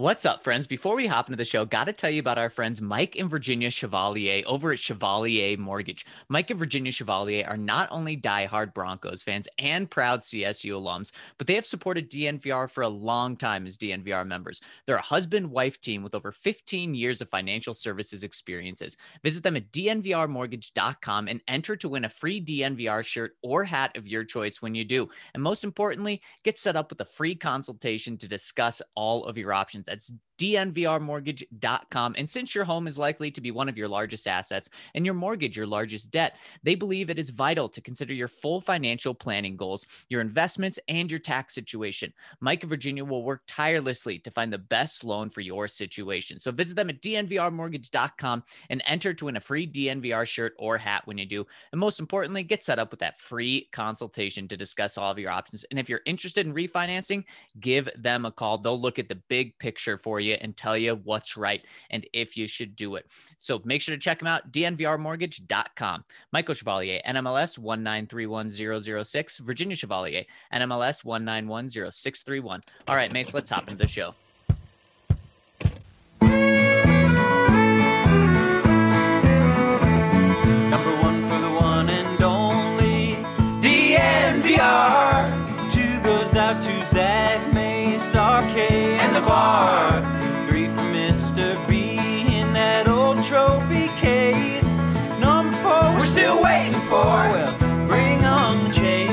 What's up, friends? Before we hop into the show, got to tell you about our friends Mike and Virginia Chevalier over at Chevalier Mortgage. Mike and Virginia Chevalier are not only diehard Broncos fans and proud CSU alums, but they have supported DNVR for a long time as DNVR members. They're a husband-wife team with over 15 years of financial services experiences. Visit them at dnvrmortgage.com and enter to win a free DNVR shirt or hat of your choice when you do. And most importantly, get set up with a free consultation to discuss all of your options. That's dnvrmortgage.com. And since your home is likely to be one of your largest assets and your mortgage your largest debt, they believe it is vital to consider your full financial planning goals, your investments, and your tax situation. Mike and Virginia will work tirelessly to find the best loan for your situation. So visit them at dnvrmortgage.com and enter to win a free DNVR shirt or hat when you do. And most importantly, get set up with that free consultation to discuss all of your options. And if you're interested in refinancing, give them a call. They'll look at the big picture for you and tell you what's right and if you should do it. So make sure to check them out, dnvrmortgage.com. Michael Chevalier, NMLS 1931006, Virginia Chevalier, NMLS 1910631. All right, Mace, let's hop into the show. Number one for the one and only DNVR. Two goes out to Zach, Mace, RK, and the bar. Three for Mr. B in that old trophy case. Number four, we're still waiting for. Well, bring on the chase.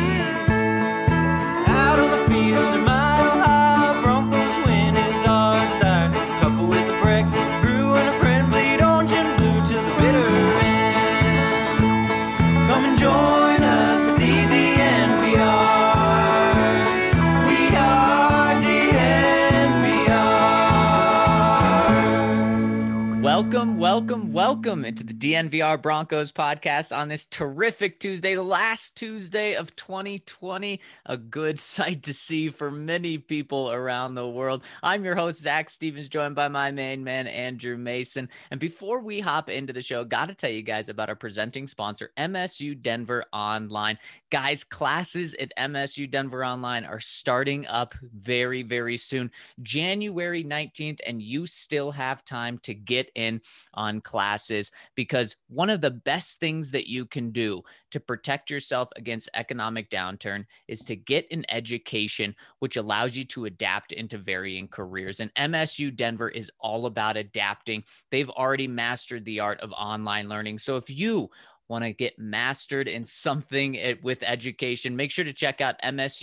Out on the field, a mile high, Broncos win is our desire. Couple with a break, brew and a friend, bleed orange and blue to the bitter end. Come and join us at the DNVR. We are DNVR. Welcome into the DNVR Broncos podcast on this terrific Tuesday, the last Tuesday of 2020. A good sight to see for many people around the world. I'm your host, Zach Stevens, joined by my main man, Andrew Mason. And before we hop into the show, got to tell you guys about our presenting sponsor, MSU Denver Online. Guys, classes at MSU Denver Online are starting up very, very soon, January 19th, and you still have time to get in on classes, because one of the best things that you can do to protect yourself against economic downturn is to get an education which allows you to adapt into varying careers. And MSU Denver is all about adapting. They've already mastered the art of online learning. So if you want to get mastered in something with education, make sure to check out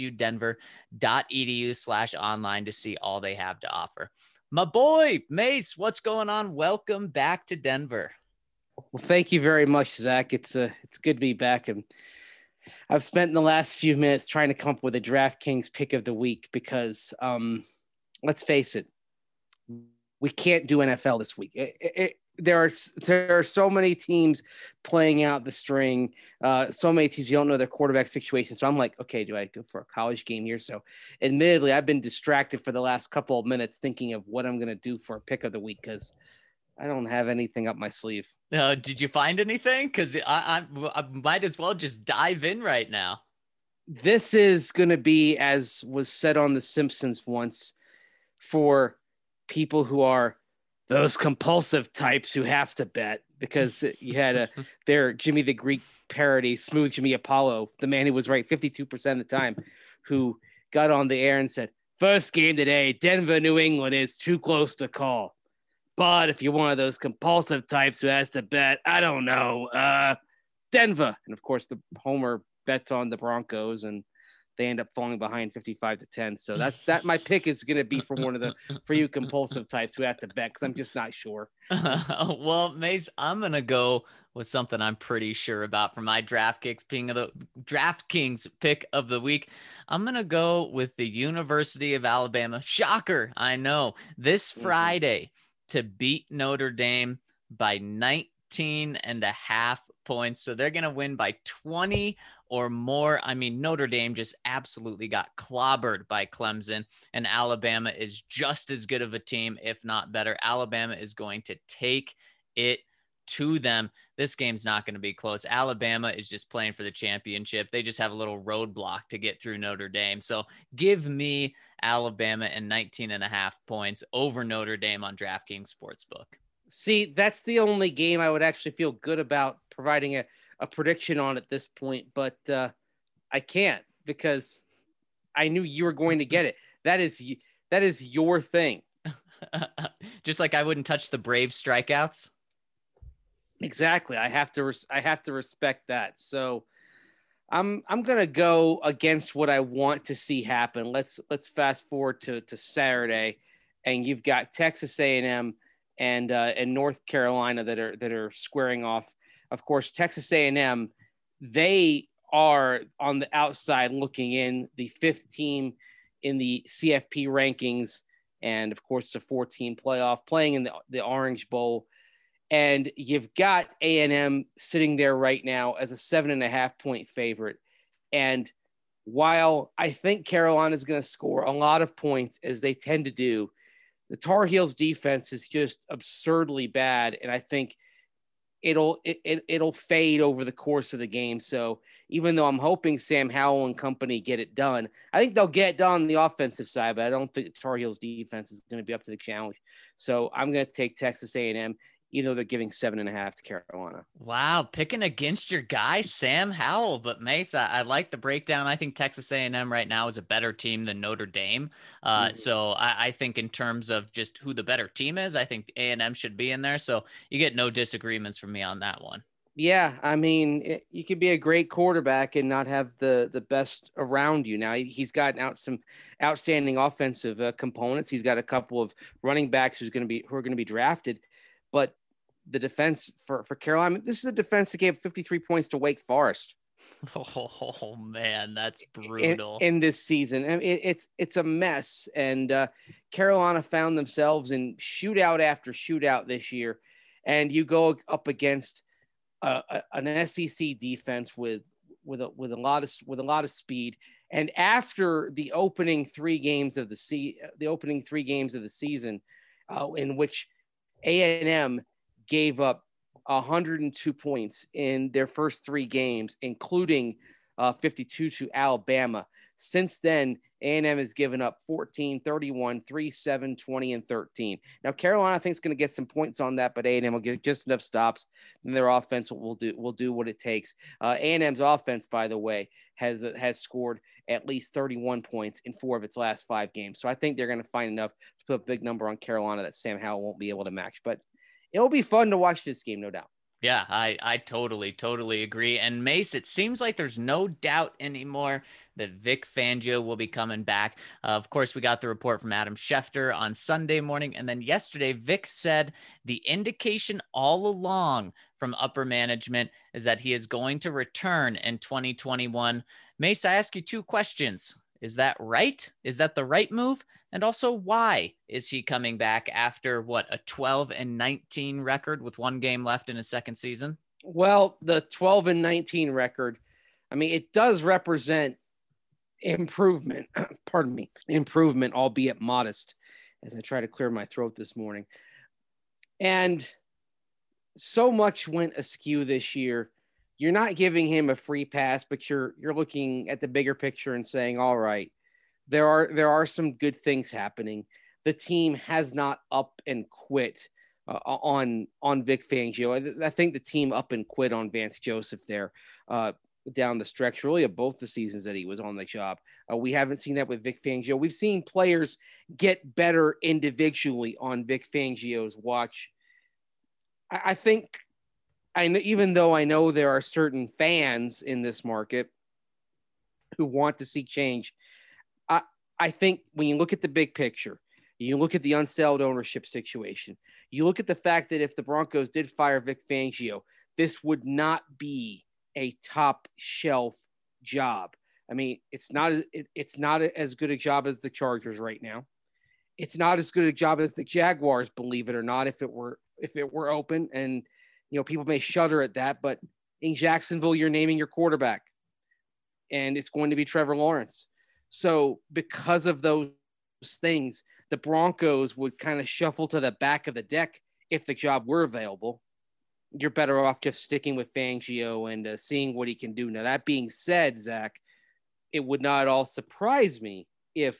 msudenver.edu/online to see all they have to offer. My boy, Mace, what's going on? Welcome back to Denver. Well, thank you very much, Zach. It's good to be back. And I've spent the last few minutes trying to come up with a DraftKings pick of the week because, let's face it, we can't do NFL this week. There are so many teams playing out the string, so many teams you don't know their quarterback situation. So I'm like, okay, do I go for a college game here? So admittedly, I've been distracted for the last couple of minutes thinking of what I'm going to do for a pick of the week because I don't have anything up my sleeve. Did you find anything? Because I might as well just dive in right now. This is going to be, as was said on The Simpsons once, for people who are those compulsive types who have to bet, because you had their Jimmy the Greek parody, Smooth Jimmy Apollo, the man who was right 52% of the time, who got on the air and said, first game today, Denver, New England is too close to call. But if you're one of those compulsive types who has to bet, I don't know, Denver. And of course, the Homer bets on the Broncos and they end up falling behind 55-10. So that my pick is going to be for for you compulsive types who have to bet, because I'm just not sure. Well, Mace, I'm going to go with something I'm pretty sure about for my DraftKings pick of the week. I'm going to go with the University of Alabama. Shocker, I know. This Friday to beat Notre Dame by 19.5 points. So they're going to win by 20 or more. I mean, Notre Dame just absolutely got clobbered by Clemson, and Alabama is just as good of a team, if not better. Alabama is going to take it to them. This game's not going to be close. Alabama is just playing for the championship. They just have a little roadblock to get through Notre Dame. So give me Alabama and 19.5 points over Notre Dame on DraftKings Sportsbook. See, that's the only game I would actually feel good about providing a prediction on at this point, but I can't because I knew you were going to get it. That is your thing. Just like I wouldn't touch the Brave strikeouts. Exactly. I have to respect that. So I'm going to go against what I want to see happen. Let's fast forward to Saturday, and you've got Texas A&M and North Carolina that are squaring off. Of course, Texas A&M, they are on the outside looking in, the fifth team in the CFP rankings. And of course, it's a 4-team playoff playing in the Orange Bowl. And you've got A&M sitting there right now as a 7.5-point favorite. And while I think Carolina is going to score a lot of points, as they tend to do, the Tar Heels defense is just absurdly bad. And I think it'll fade over the course of the game. So even though I'm hoping Sam Howell and company get it done, I think they'll get it done on the offensive side, but I don't think the Tar Heels defense is going to be up to the challenge. So I'm going to take Texas A&M. They're giving 7.5 to Carolina. Wow, picking against your guy, Sam Howell. But Mace, I like the breakdown. I think Texas A&M right now is a better team than Notre Dame. So I think in terms of just who the better team is, I think A&M should be in there. So you get no disagreements from me on that one. Yeah, I mean, you could be a great quarterback and not have the best around you. Now, he's gotten out some outstanding offensive components. He's got a couple of running backs who are going to be drafted, but the defense for Carolina, this is a defense that gave 53 points to Wake Forest. Oh man, that's brutal in this season. I mean, it's a mess. And Carolina found themselves in shootout after shootout this year. And you go up against an SEC defense with a lot of speed. And after the opening three games of the season, in which A&M gave up 102 points in their first three games, including 52 to Alabama. Since then, A&M has given up 14, 31, 3, 7, 20, and 13. Now, Carolina, I think, is going to get some points on that, but A&M will get just enough stops, and their offense will do what it takes. A&M's offense, by the way, has scored at least 31 points in 4 of its last 5 games. So I think they're going to find enough to put a big number on Carolina that Sam Howell won't be able to match. But it'll be fun to watch this game, no doubt. Yeah, I totally agree. And Mace, it seems like there's no doubt anymore that Vic Fangio will be coming back. Of course, we got the report from Adam Schefter on Sunday morning. And then yesterday, Vic said the indication all along from upper management is that he is going to return in 2021. Mace, I ask you 2 questions. Is that right? Is that the right move? And also, why is he coming back after a 12-19 record with 1 game left in his second season? Well, the 12-19 record, I mean, it does represent improvement, improvement, albeit modest, as I try to clear my throat this morning. And so much went askew this year. You're not giving him a free pass, but you're looking at the bigger picture and saying, all right, there are some good things happening. The team has not up and quit on Vic Fangio. I think the team up and quit on Vance Joseph there down the stretch, really, of both the seasons that he was on the job. We haven't seen that with Vic Fangio. We've seen players get better individually on Vic Fangio's watch. I think, even though I know there are certain fans in this market who want to see change, I think when you look at the big picture, you look at the unsettled ownership situation, you look at the fact that if the Broncos did fire Vic Fangio, this would not be a top shelf job. I mean, it's not as good a job as the Chargers right now. It's not as good a job as the Jaguars, believe it or not, if it were open. And people may shudder at that, but in Jacksonville, you're naming your quarterback, and it's going to be Trevor Lawrence. So because of those things, the Broncos would kind of shuffle to the back of the deck if the job were available. you're better off just sticking with Fangio and seeing what he can do. Now, that being said, Zach, it would not at all surprise me if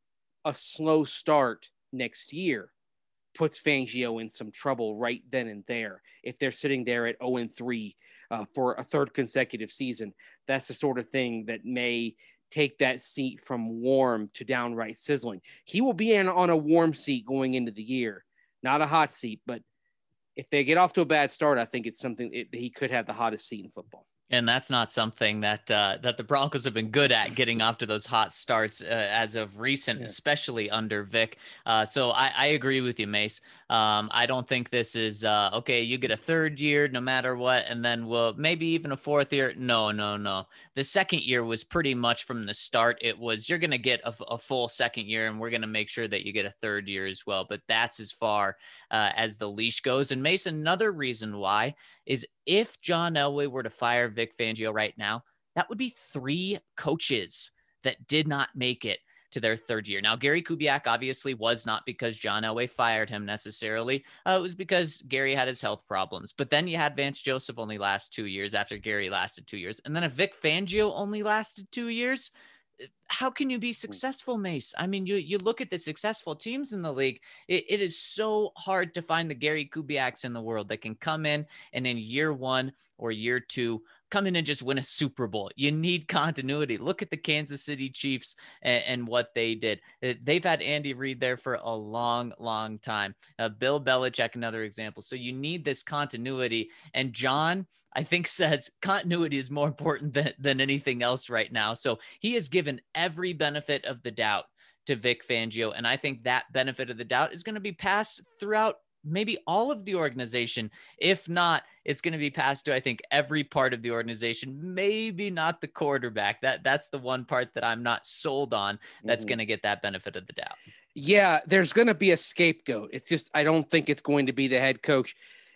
a slow start next year puts Fangio in some trouble right then and there. If they're sitting there at 0-3 for a third consecutive season, that's the sort of thing that may take that seat from warm to downright sizzling. He will be on a warm seat going into the year, not a hot seat, but if they get off to a bad start, I think it's something he could have the hottest seat in football. And that's not something that that the Broncos have been good at, getting off to those hot starts as of recent, especially under Vic. So I agree with you, Mace. I don't think this is okay. You get a third year no matter what, and then we'll maybe even a fourth year. No. The second year was pretty much from the start. It was, you're going to get a full second year, and we're going to make sure that you get a third year as well. But that's as far as the leash goes. And Mason, another reason why is if John Elway were to fire Vic Fangio right now, that would be 3 coaches that did not make it to their third year. Now, Gary Kubiak obviously was not because John Elway fired him necessarily. It was because Gary had his health problems. But then you had Vance Joseph only last 2 years after Gary lasted 2 years. And then if Vic Fangio only lasted 2 years, how can you be successful, Mace? I mean, you look at the successful teams in the league. It is so hard to find the Gary Kubiaks in the world that can come in and in year 1 or year 2 come in and just win a Super Bowl. You need continuity. Look at the Kansas City Chiefs and what they did. They've had Andy Reid there for a long, long time. Bill Belichick, another example. So you need this continuity. And John, I think, says continuity is more important than anything else right now. So he has given every benefit of the doubt to Vic Fangio. And I think that benefit of the doubt is going to be passed throughout maybe all of the organization. If not, it's going to be passed to, I think, every part of the organization, maybe not the quarterback. That's the one part that I'm not sold on that's going to get that benefit of the doubt. Yeah, there's going to be a scapegoat. It's just, I don't think it's going to be the head coach.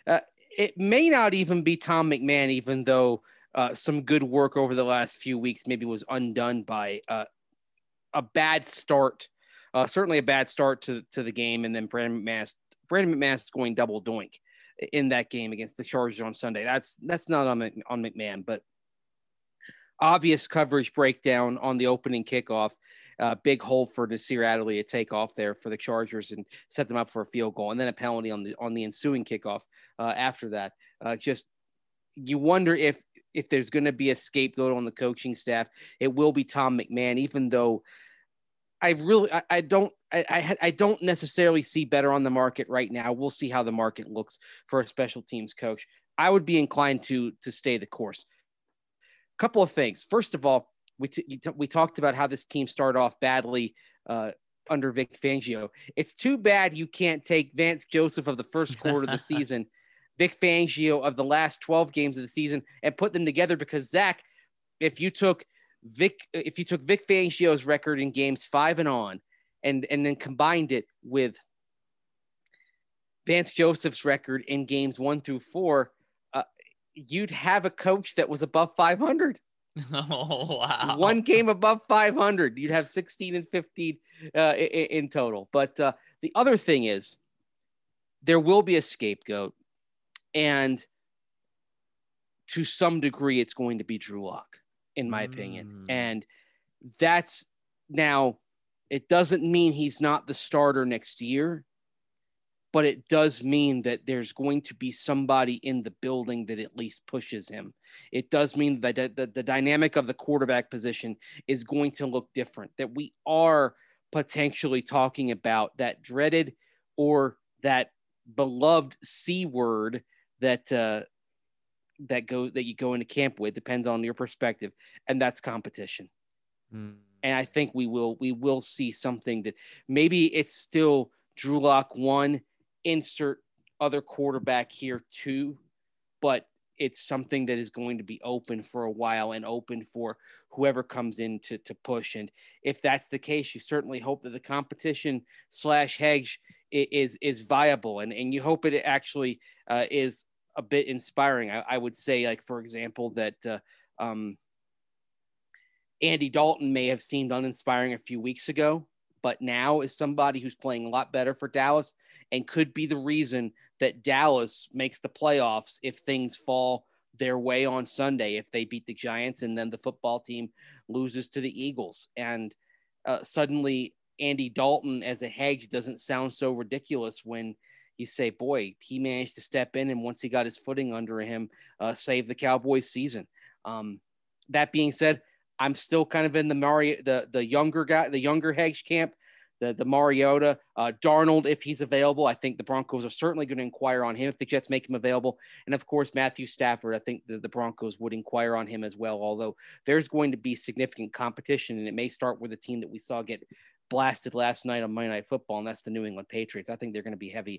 It may not even be Tom McMahon, even though some good work over the last few weeks maybe was undone by a bad start, certainly a bad start to the game, and then Brandon McManus going double doink in that game against the Chargers on Sunday. That's not on McMahon, but obvious coverage breakdown on the opening kickoff. Big hole for Nasir Adderley to take off there for the Chargers and set them up for a field goal, and then a penalty on the ensuing kickoff after that. Just, you wonder if there's going to be a scapegoat on the coaching staff. It will be Tom McMahon, even though I don't necessarily see better on the market right now. We'll see how the market looks for a special teams coach. I would be inclined to stay the course. A couple of things. First of all, we talked about how this team started off badly under Vic Fangio. It's too bad you can't take Vance Joseph of the first quarter of the season, Vic Fangio of the last 12 games of the season, and put them together, because Zach, if you took Vic Fangio's record in games 5 and on, and then combined it with Vance Joseph's record in games 1 through 4, you'd have a coach that was above 500. Oh, wow. One game above 500. You'd have 16 and 15 in total. But the other thing is, there will be a scapegoat, and to some degree, it's going to be Drew Lock, in my opinion. And that's, now, it doesn't mean he's not the starter next year, but it does mean that there's going to be somebody in the building that at least pushes him. It does mean that the dynamic of the quarterback position is going to look different, that we are potentially talking about that dreaded or that beloved C word that you go into camp with, depends on your perspective, and that's competition. And I think we will see something that maybe it's still Drew Lock 1, insert other quarterback here too, but it's something that is going to be open for a while and open for whoever comes in to push. And if that's the case, you certainly hope that the competition / hedge is viable, and you hope it actually is a bit inspiring. I would say, like, for example, that Andy Dalton may have seemed uninspiring a few weeks ago, but now is somebody who's playing a lot better for Dallas and could be the reason that Dallas makes the playoffs if things fall their way on Sunday, if they beat the Giants and then the football team loses to the Eagles. And suddenly Andy Dalton as a hedge doesn't sound so ridiculous when you say, boy, he managed to step in, and once he got his footing under him, save the Cowboys season. That being said, I'm still kind of in the younger hedge camp, the Mariota, Darnold, if he's available. I think the Broncos are certainly going to inquire on him if the Jets make him available. And of course, Matthew Stafford, I think the Broncos would inquire on him as well, although there's going to be significant competition, and it may start with a team that we saw get blasted last night on Monday Night Football, and that's the New England Patriots. I think they're going to be heavy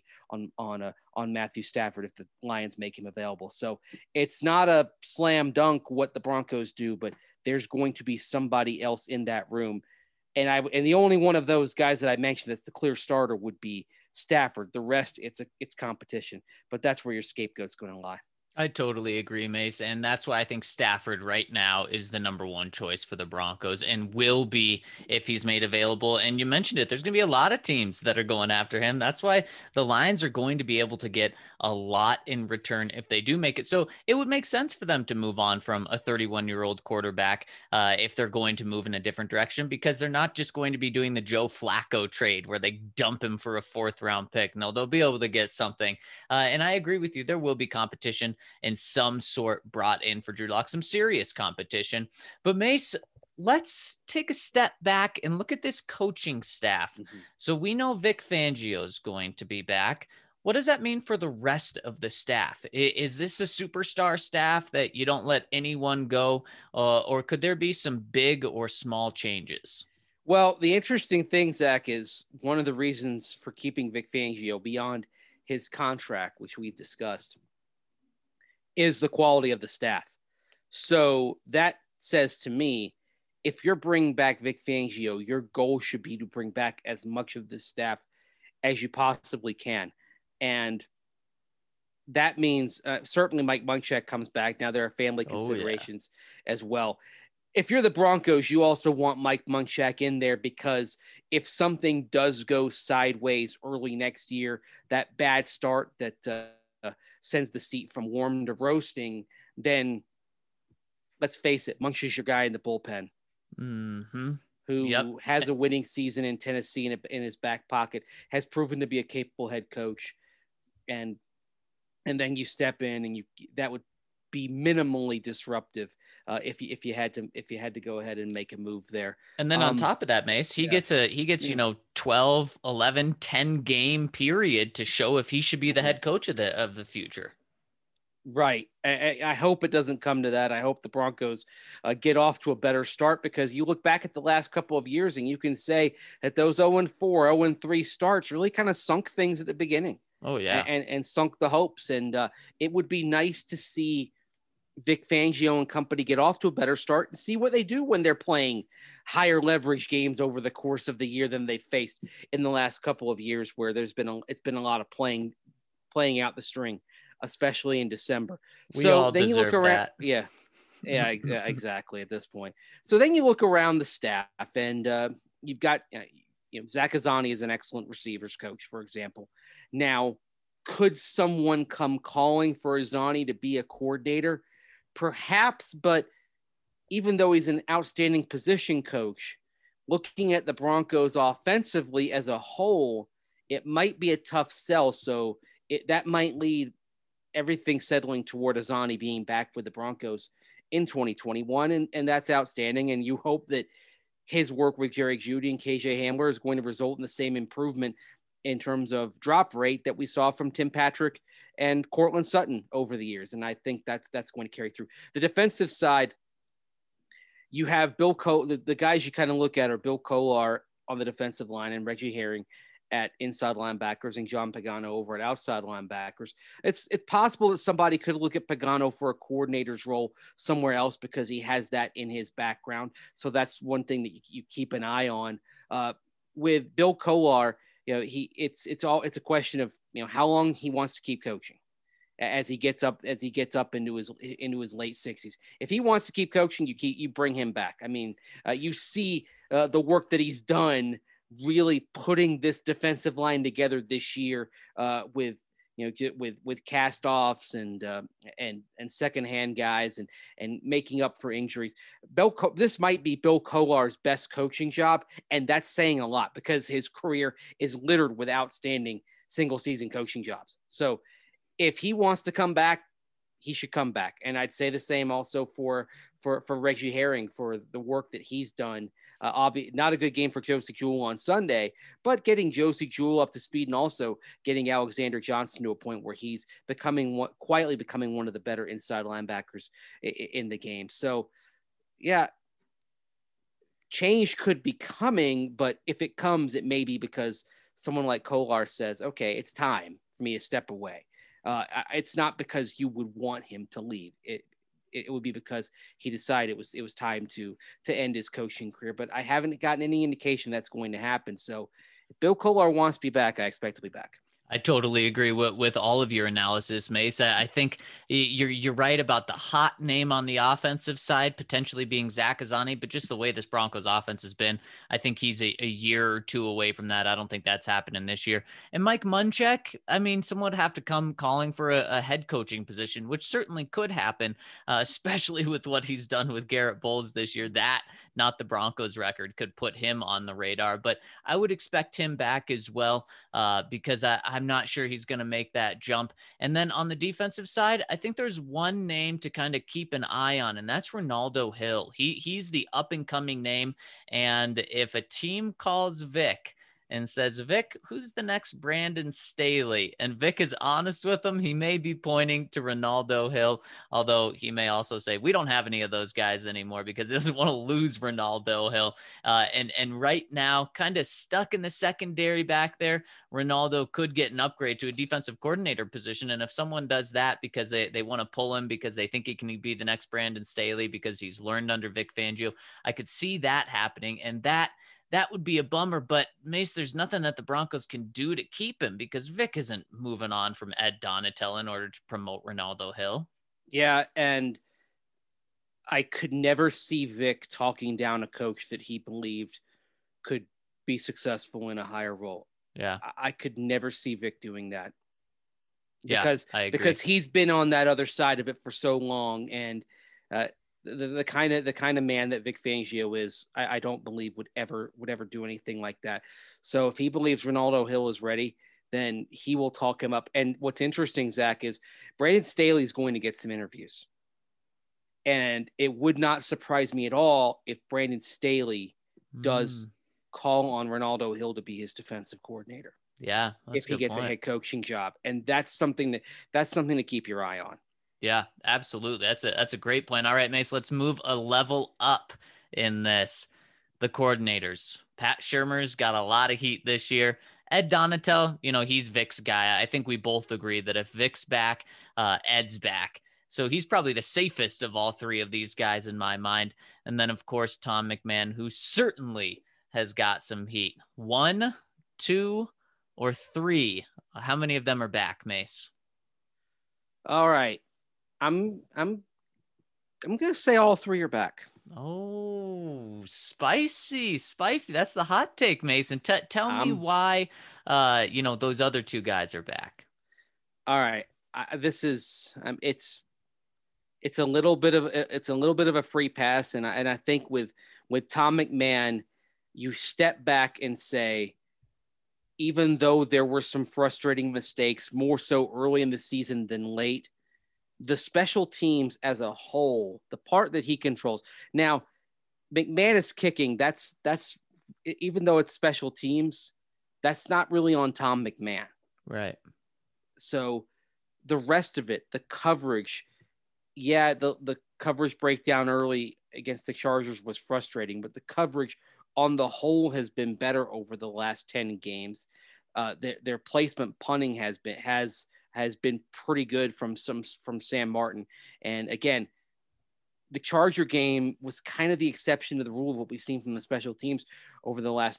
on Matthew Stafford if the Lions make him available. So it's not a slam dunk what the Broncos do, but there's going to be somebody else in that room. And the only one of those guys that I mentioned that's the clear starter would be Stafford. The rest, it's competition, but that's where your scapegoat's going to lie. I totally agree, Mace. And that's why I think Stafford right now is the number one choice for the Broncos and will be if he's made available. And you mentioned it, there's going to be a lot of teams that are going after him. That's why the Lions are going to be able to get a lot in return if they do make it. So it would make sense for them to move on from a 31-year-old quarterback if they're going to move in a different direction, because they're not just going to be doing the Joe Flacco trade where they dump him for a 4th-round pick. No, they'll be able to get something. And I agree with you. There will be competition in some sort brought in for Drew Lock, some serious competition. But Mace, let's take a step back and look at this coaching staff. Mm-hmm. So we know Vic Fangio is going to be back. What does that mean for the rest of the staff? Is this a superstar staff that you don't let anyone go, or could there be some big or small changes? Well, the interesting thing, Zach, is one of the reasons for keeping Vic Fangio beyond his contract, which we've discussed, is the quality of the staff. So that says to me, if you're bringing back Vic Fangio, your goal should be to bring back as much of the staff as you possibly can. And that means certainly Mike Munchak comes back. Now there are family considerations as well. If you're the Broncos, you also want Mike Munchak in there, because if something does go sideways early next year, that bad start that sends the seat from warm to roasting, then let's face it, Munch is your guy in the bullpen, who has a winning season in Tennessee in his back pocket, has proven to be a capable head coach, and then you step in and that would be minimally disruptive if you had to go ahead and make a move there. And then on top of that, Mace, he gets 12, 11, 10 game period to show if he should be the head coach of the future. Right. I hope it doesn't come to that. I hope the Broncos get off to a better start, because you look back at the last couple of years and you can say that those 0-4, 0-3 starts really kind of sunk things at the beginning. Oh yeah. And sunk the hopes. And it would be nice to see Vic Fangio and company get off to a better start and see what they do when they're playing higher leverage games over the course of the year than they've faced in the last couple of years, where it's been a lot of playing out the string, especially in December. So then you look around. That. Yeah, exactly at this point. So then you look around the staff, and you've got, Zach Azzanni is an excellent receivers coach, for example. Now, could someone come calling for Azzanni to be a coordinator? Perhaps, but even though he's an outstanding position coach, looking at the Broncos offensively as a whole, it might be a tough sell. So that might lead everything settling toward Azzanni being back with the Broncos in 2021. And that's outstanding. And you hope that his work with Jerry Jeudy and KJ Hamler is going to result in the same improvement in terms of drop rate that we saw from Tim Patrick and Cortland Sutton over the years. And I think that's going to carry through. The defensive side, you have Bill the guys you kind of look at are Bill Kolar on the defensive line and Reggie Herring at inside linebackers and John Pagano over at outside linebackers. It's possible that somebody could look at Pagano for a coordinator's role somewhere else because he has that in his background. So that's one thing that you keep an eye on. With Bill Kolar, it's a question of how long he wants to keep coaching as he gets up into his late 60s. If he wants to keep coaching, you bring him back. I mean, you see the work that he's done really putting this defensive line together this year with with cast-offs and secondhand guys and making up for injuries. This might be Bill Kolar's best coaching job, and that's saying a lot because his career is littered with outstanding single-season coaching jobs. So if he wants to come back, he should come back. And I'd say the same also for Reggie Herring for the work that he's done. Not a good game for Josie Jewell on Sunday, but getting Josie Jewell up to speed and also getting Alexander Johnson to a point where he's quietly becoming one of the better inside linebackers in the game. So, yeah, change could be coming, but if it comes, it may be because someone like Kolar says, okay, it's time for me to step away. It's not because you would want him to leave. It would be because he decided it was time to end his coaching career. But I haven't gotten any indication that's going to happen. So if Bill Kolar wants to be back, I expect to be back. I totally agree with all of your analysis, Mace. I think you're right about the hot name on the offensive side potentially being Zach Azzanni, but just the way this Broncos offense has been, I think he's a year or two away from that. I don't think that's happening this year. And Mike Munchak, I mean, someone would have to come calling for a head coaching position, which certainly could happen, especially with what he's done with Garrett Bowles this year. That, not the Broncos record, could put him on the radar. But I would expect him back as well because I'm not sure he's going to make that jump. And then on the defensive side, I think there's one name to kind of keep an eye on, and that's Ronaldo Hill. He's the up and coming name. And if a team calls Vic and says, Vic, who's the next Brandon Staley? And Vic is honest with him, he may be pointing to Ronaldo Hill, although he may also say, we don't have any of those guys anymore because he doesn't want to lose Ronaldo Hill. And right now, kind of stuck in the secondary back there, Ronaldo could get an upgrade to a defensive coordinator position. And if someone does that because they want to pull him because they think he can be the next Brandon Staley because he's learned under Vic Fangio, I could see that happening. And that would be a bummer, but Mace, there's nothing that the Broncos can do to keep him because Vic isn't moving on from Ed Donatel in order to promote Ronaldo Hill. Yeah, and I could never see Vic talking down a coach that he believed could be successful in a higher role. Yeah, I could never see Vic doing that. Yeah, because he's been on that other side of it for so long, and the kind of man that Vic Fangio is, I don't believe would ever do anything like that. So if he believes Ronaldo Hill is ready, then he will talk him up. And what's interesting, Zach, is Brandon Staley is going to get some interviews, and it would not surprise me at all if Brandon Staley does call on Ronaldo Hill to be his defensive coordinator. Yeah, if he gets a head coaching job, and that's something to keep your eye on. Yeah, absolutely. That's a great point. All right, Mace, let's move a level up in this. The coordinators. Pat Shurmur's got a lot of heat this year. Ed Donatel, he's Vic's guy. I think we both agree that if Vic's back, Ed's back. So he's probably the safest of all three of these guys in my mind. And then, of course, Tom McMahon, who certainly has got some heat. 1, 2, or 3. How many of them are back, Mace? All right. I'm going to say all 3 are back. Oh, spicy. That's the hot take, Mason. Tell me why, those other 2 guys are back. All right. This is, it's a little bit of a free pass. And I think with Tom McMahon, you step back and say, even though there were some frustrating mistakes, more so early in the season than late, the special teams as a whole, the part that he controls. Now, McManus kicking, that's even though it's special teams, that's not really on Tom McMahon. Right. So the rest of it, the coverage, the coverage breakdown early against the Chargers was frustrating, but the coverage on the whole has been better over the last 10 games. Their placement punting has been pretty good from Sam Martin. And again, the Charger game was kind of the exception to the rule of what we've seen from the special teams over the last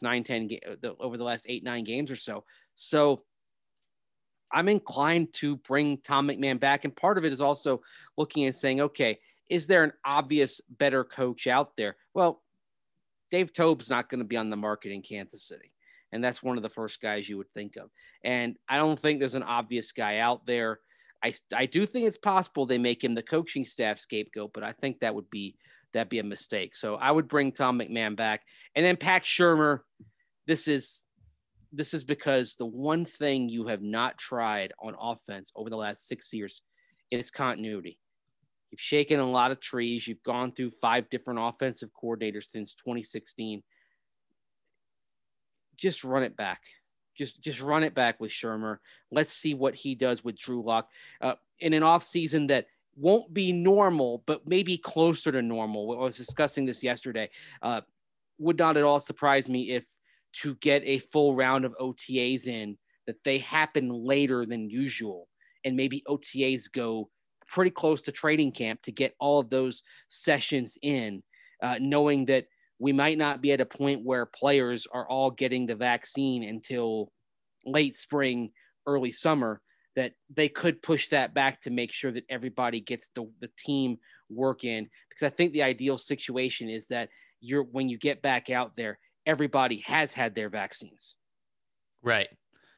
8-9 games or so. So I'm inclined to bring Tom McMahon back. And part of it is also looking and saying, okay, is there an obvious better coach out there? Well, Dave Toub's not going to be on the market in Kansas City. And that's one of the first guys you would think of. And I don't think there's an obvious guy out there. I do think it's possible they make him the coaching staff scapegoat, but I think that'd be a mistake. So I would bring Tom McMahon back. And then Pat Shurmur, this is because the one thing you have not tried on offense over the last 6 years is continuity. You've shaken a lot of trees. You've gone through 5 different offensive coordinators since 2016. Just run it back. Just run it back with Shurmur. Let's see what he does with Drew Lock in an offseason that won't be normal, but maybe closer to normal. I was discussing this yesterday. Would not at all surprise me if to get a full round of OTAs in, that they happen later than usual. And maybe OTAs go pretty close to training camp to get all of those sessions in, knowing that we might not be at a point where players are all getting the vaccine until late spring, early summer, that they could push that back to make sure that everybody gets the team work in. Because I think the ideal situation is that when you get back out there, everybody has had their vaccines. Right.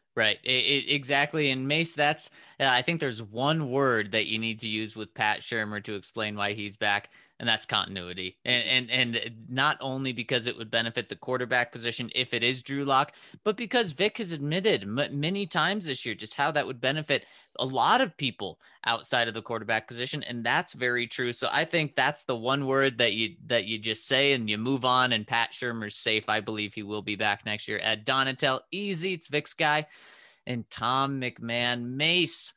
Exactly. And Mace, that's, I think there's one word that you need to use with Pat Shurmur to explain why he's back, and that's continuity. And not only because it would benefit the quarterback position if it is Drew Lock, but because Vic has admitted many times this year just how that would benefit a lot of people outside of the quarterback position. And that's very true. So I think that's the one word that you just say and you move on, and Pat Shurmur's safe. I believe he will be back next year. Ed Donatel, easy. It's Vic's guy. And Tom McMahon. Mace,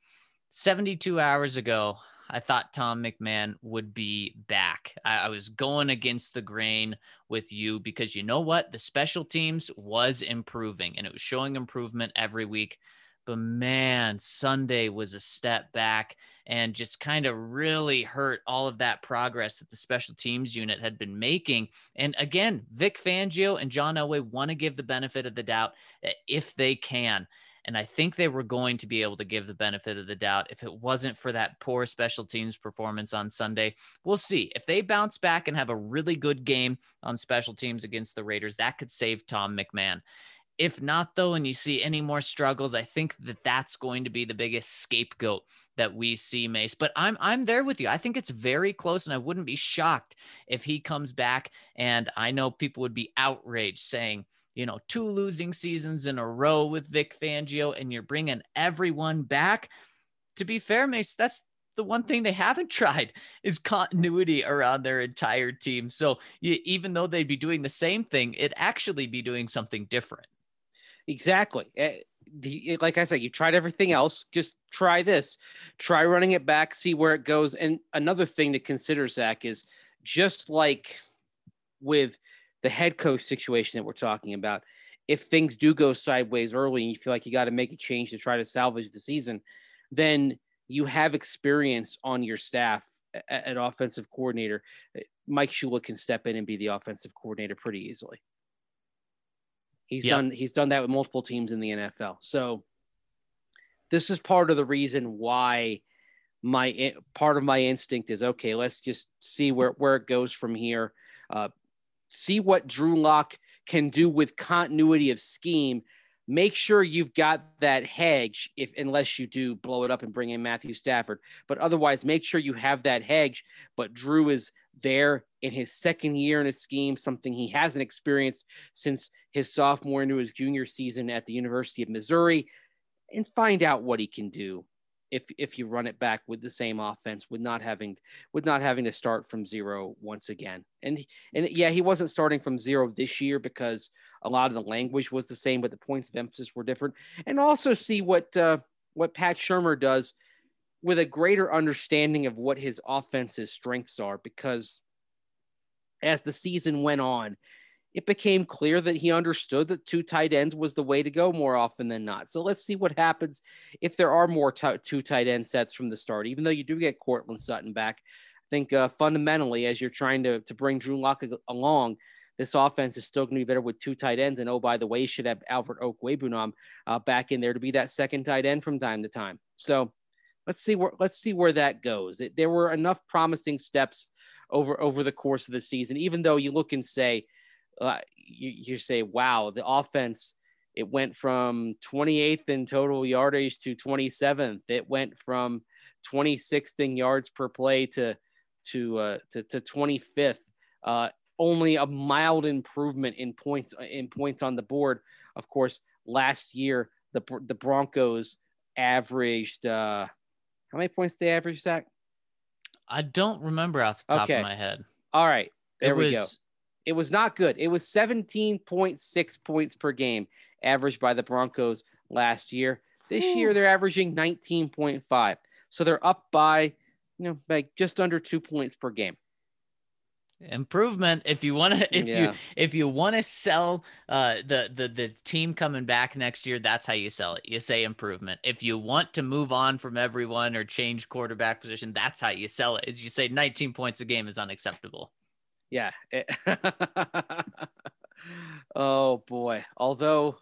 72 hours ago, I thought Tom McMahon would be back. I was going against the grain with you because you know what? The special teams was improving and it was showing improvement every week. But man, Sunday was a step back and just kind of really hurt all of that progress that the special teams unit had been making. And again, Vic Fangio and John Elway want to give the benefit of the doubt if they can. And I think they were going to be able to give the benefit of the doubt if it wasn't for that poor special teams performance on Sunday. We'll see. If they bounce back and have a really good game on special teams against the Raiders, that could save Tom McMahon. If not, though, and you see any more struggles, I think that's going to be the biggest scapegoat that we see, Mace. But I'm there with you. I think it's very close, and I wouldn't be shocked if he comes back. And I know people would be outraged saying, 2 losing seasons in a row with Vic Fangio, and you're bringing everyone back. To be fair, Mace, that's the one thing they haven't tried is continuity around their entire team. So even though they'd be doing the same thing, it'd actually be doing something different. Exactly. Like I said, you tried everything else. Just try this. Try running it back, see where it goes. And another thing to consider, Zach, is just like with the head coach situation that we're talking about, if things do go sideways early and you feel like you got to make a change to try to salvage the season, then you have experience on your staff at offensive coordinator. Mike Shula can step in and be the offensive coordinator pretty easily. He's done that with multiple teams in the NFL. So this is part of the reason why part of my instinct is, okay, let's just see where it goes from here. See what Drew Lock can do with continuity of scheme. Make sure you've got that hedge unless you do blow it up and bring in Matthew Stafford. But otherwise, make sure you have that hedge. But Drew is there in his second year in a scheme, something he hasn't experienced since his sophomore into his junior season at the University of Missouri, and find out what he can do if you run it back with the same offense, with not having to start from zero once again. And yeah, he wasn't starting from zero this year because a lot of the language was the same, but the points of emphasis were different. And also see what Pat Shurmur does with a greater understanding of what his offense's strengths are, because as the season went on, it became clear that he understood that 2 tight ends was the way to go more often than not. So let's see what happens if there are more 2 tight end sets from the start, even though you do get Courtland Sutton back. I think fundamentally, as you're trying to bring Drew Lock along, this offense is still going to be better with 2 tight ends. And oh, by the way, you should have Albert Okwuegbunam back in there to be that second tight end from time to time. So let's see where that goes. There were enough promising steps over the course of the season, even though you look and say, you say, wow, the offense It went from 28th in total yardage to 27th. It went from 26th in yards per play to 25th. Only a mild improvement in points on the board. Of course, last year the Broncos averaged how many points they averaged, Zach? I don't remember off the top of my head. All right, there we go. It was not good. It was 17.6 points per game averaged by the Broncos last year. This year they're averaging 19.5. So they're up by, like just under 2 points per game. Improvement. If you want to, if you want to sell the team coming back next year, that's how you sell it. You say improvement. If you want to move on from everyone or change quarterback position, that's how you sell it. Is you say 19 points a game is unacceptable. Yeah. Oh boy. Although,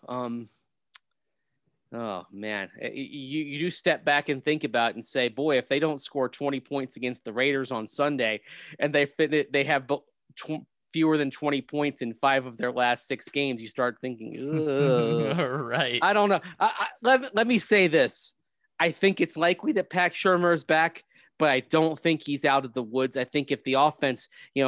oh man, you do step back and think about it and say, boy, if they don't score 20 points against the Raiders on Sunday and they have fewer than 20 points in 5 of their last 6 games, you start thinking, right. I don't know. Let me say this. I think it's likely that Pat Shurmur is back, but I don't think he's out of the woods. I think if the offense,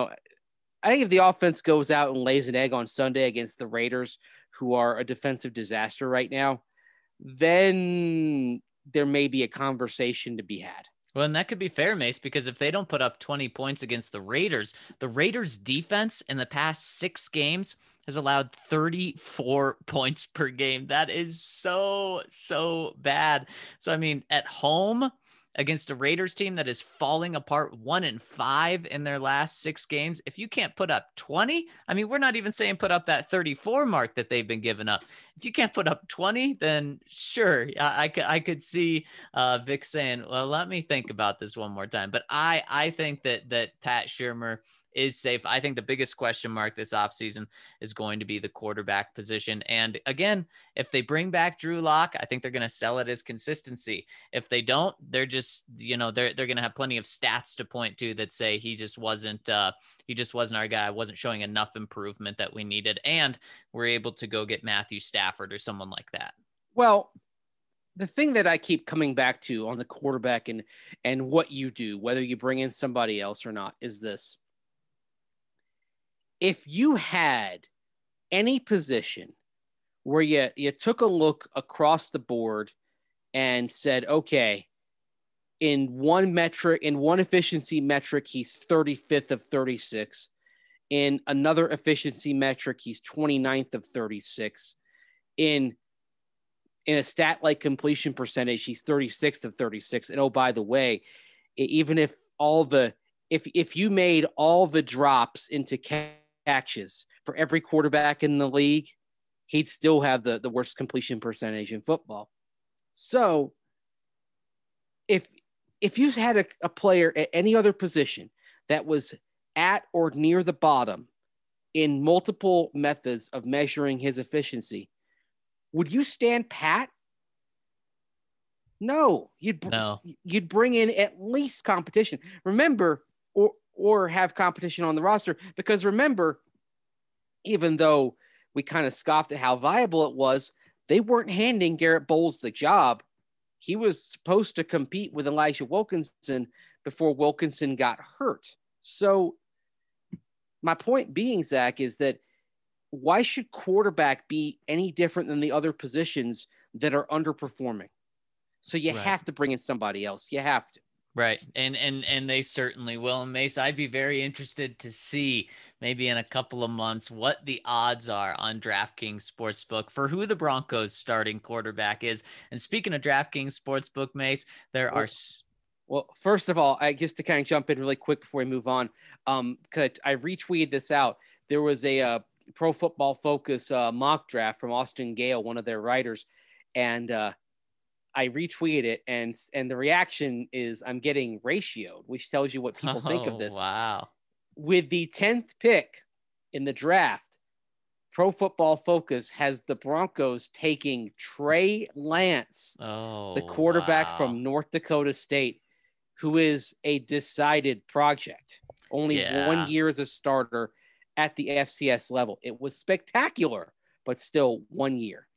goes out and lays an egg on Sunday against the Raiders, who are a defensive disaster right now, then there may be a conversation to be had. Well, and that could be fair, Mace, because if they don't put up 20 points against the Raiders defense in the past 6 games has allowed 34 points per game. That is so bad. So, I mean, at home against a Raiders team that is falling apart 1-5 in their last 6 games. If you can't put up 20, I mean, we're not even saying put up that 34 mark that they've been giving up. If you can't put up 20, then sure, I could see Vic saying, well, let me think about this one more time. But I think that Pat Shurmur is safe. I think the biggest question mark this offseason is going to be the quarterback position. And again, if they bring back Drew Lock, I think they're going to sell it as consistency. If they don't, they're just, they're going to have plenty of stats to point to that say he just wasn't our guy, wasn't showing enough improvement that we needed. And we're able to go get Matthew Stafford or someone like that. Well, the thing that I keep coming back to on the quarterback and what you do, whether you bring in somebody else or not, is this. If you had any position where you took a look across the board and said, okay, in one efficiency metric, he's 35th of 36. In another efficiency metric, he's 29th of 36. In a stat like completion percentage, he's 36th of 36. And oh, by the way, even if if you made all the drops into catches for every quarterback in the league, he'd still have the worst completion percentage in football. So if you had a player at any other position that was at or near the bottom in multiple methods of measuring his efficiency, would you stand pat? No, you'd bring in at least competition. Remember, or have competition on the roster, because remember, even though we kind of scoffed at how viable it was, they weren't handing Garrett Bowles the job. He was supposed to compete with Elijah Wilkinson before Wilkinson got hurt. So my point being, Zach, is that why should quarterback be any different than the other positions that are underperforming? So you have to bring in somebody else. You have to. Right. And they certainly will. And Mace, I'd be very interested to see maybe in a couple of months what the odds are on DraftKings Sportsbook for who the Broncos starting quarterback is. And speaking of DraftKings Sportsbook, Mace, Well, first of all, just to kind of jump in really quick before we move on, because I retweeted this out. There was a Pro Football Focus mock draft from Austin Gale, one of their writers, and I retweeted it, and the reaction is I'm getting ratioed, which tells you what people think of this. Wow. With the 10th pick in the draft, Pro Football Focus has the Broncos taking Trey Lance, the quarterback from North Dakota State, who is a decided project. Only 1 year as a starter at the FCS level. It was spectacular, but still 1 year.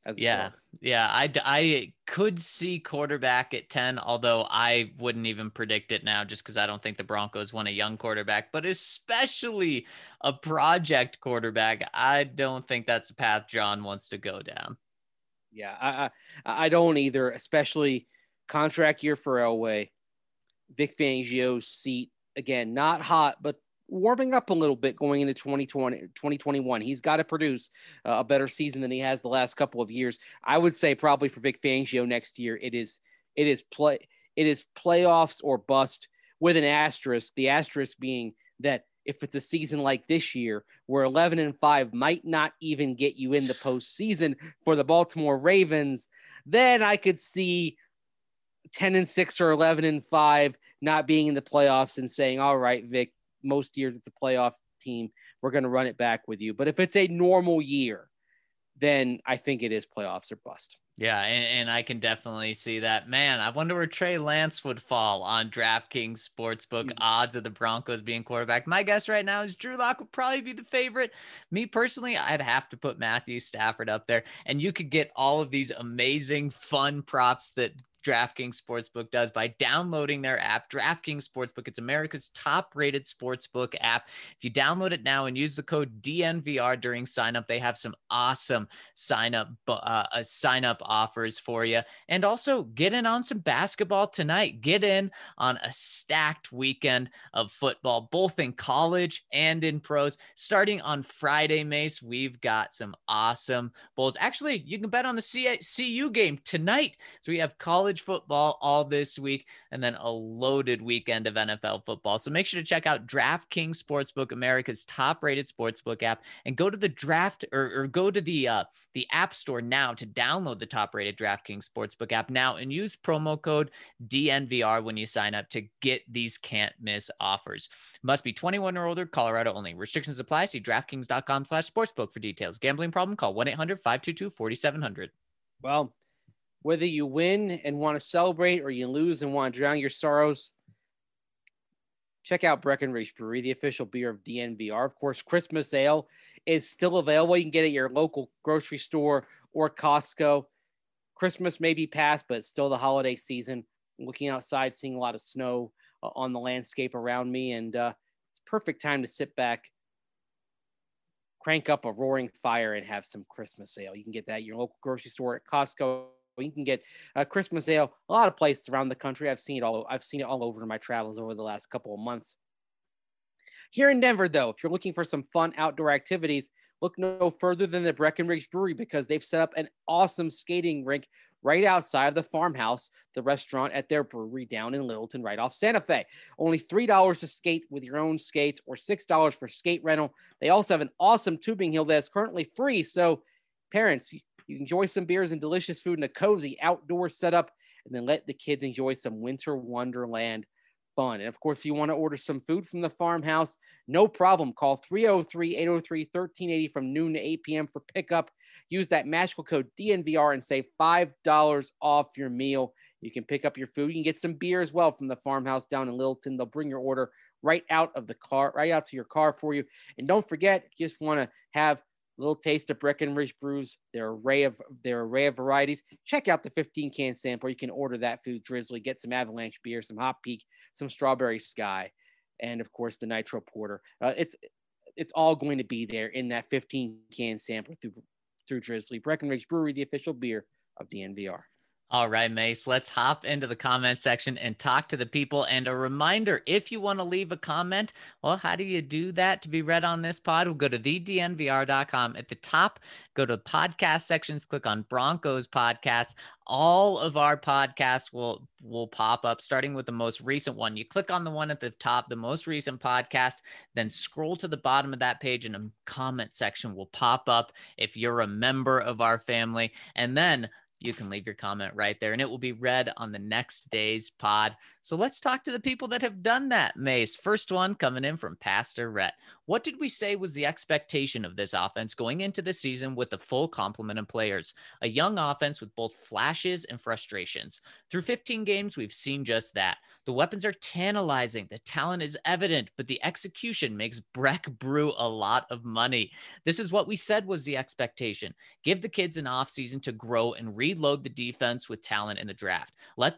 as a Yeah. starter. Yeah. I could see quarterback at 10, although I wouldn't even predict it now just because I don't think the Broncos want a young quarterback, but especially a project quarterback. I don't think that's a path John wants to go down. Yeah, I don't either, especially contract year for Elway. Vic Fangio's seat, again, not hot, but warming up a little bit going into 2021. He's got to produce a better season than he has the last couple of years. I would say probably for Vic Fangio next year, it is playoffs or bust with an asterisk. The asterisk being that if it's a season like this year, where 11-5 might not even get you in the postseason for the Baltimore Ravens, then I could see 10-6 or 11-5 not being in the playoffs and saying, all right, Vic, most years it's a playoffs team. We're going to run it back with you. But if it's a normal year, then I think it is playoffs or bust. Yeah, and I can definitely see that. Man, I wonder where Trey Lance would fall on DraftKings Sportsbook odds of the Broncos being quarterback. My guess right now is Drew Lock would probably be the favorite. Me personally, I'd have to put Matthew Stafford up there. And you could get all of these amazing, fun props that DraftKings Sportsbook does by downloading their app, DraftKings Sportsbook. It's America's top-rated sportsbook app. If you download it now and use the code DNVR during signup, they have some awesome sign-up offers for you. And also get in on some basketball tonight. Get in on a stacked weekend of football, both in college and in pros. Starting on Friday, Mace, we've got some awesome bowls. Actually, you can bet on the CU game tonight. So we have college football all this week and then a loaded weekend of NFL football. So make sure to check out DraftKings Sportsbook, America's top-rated sportsbook app, and go to the draft or go to the App Store now to download the top-rated DraftKings Sportsbook app now and use promo code DNVR when you sign up to get these can't-miss offers. Must be 21 or older, Colorado only. Restrictions apply. See DraftKings.com/sportsbook for details. Gambling problem? Call 1-800-522-4700. Well, whether you win and want to celebrate or you lose and want to drown your sorrows, check out Breckenridge Brewery, the official beer of DNVR. Of course, Christmas Ale is still available. You can get it at your local grocery store or Costco. Christmas may be past, but it's still the holiday season. I'm looking outside, seeing a lot of snow on the landscape around me, and it's a perfect time to sit back, crank up a roaring fire, and have some Christmas Ale. You can get that at your local grocery store, at Costco. You can get Christmas Ale a lot of places around the country. I've seen it all over in my travels over the last couple of months. Here in Denver, though, if you're looking for some fun outdoor activities, look no further than the Breckenridge Brewery, because they've set up an awesome skating rink right outside of the Farmhouse, the restaurant at their brewery down in Littleton, right off Santa Fe. Only $3 to skate with your own skates, or $6 for skate rental. They also have an awesome tubing hill that is currently free. So parents, you enjoy some beers and delicious food in a cozy outdoor setup, and then let the kids enjoy some winter wonderland fun. And of course, if you want to order some food from the Farmhouse, no problem. Call 303-803-1380 from noon to 8 p.m. for pickup. Use that magical code DNVR and save $5 off your meal. You can pick up your food. You can get some beer as well from the Farmhouse down in Littleton. They'll bring your order right out of the car, right out to your car for you. And don't forget, if you just want to have a little taste of Breckenridge brews, their array of varieties, check out the 15-can sample. You can order that food Drizzly, get some Avalanche beer, some Hot Peak, some Strawberry Sky, and of course the Nitro Porter. It's all going to be there in that 15-can sample through Drizzly. Breckenridge Brewery, the official beer of DNVR. All right, Mace, let's hop into the comment section and talk to the people. And a reminder, if you want to leave a comment, well, how do you do that to be read on this pod? We'll go to thednvr.com. At the top, go to podcast sections, click on Broncos podcast. All of our podcasts will pop up, starting with the most recent one. You click on the one at the top, the most recent podcast, then scroll to the bottom of that page and a comment section will pop up if you're a member of our family. And then You can leave your comment right there and it will be read on the next day's pod. So let's talk to the people that have done that, Mace. First one coming in from Pastor Rhett. What did we say was the expectation of this offense going into the season with the full complement of players? A young offense with both flashes and frustrations. Through 15 games, we've seen just that. The weapons are tantalizing. The talent is evident, but the execution makes Breck Brew a lot of money. This is what we said was the expectation. Give the kids an offseason to grow and reload the defense with talent in the draft. Let's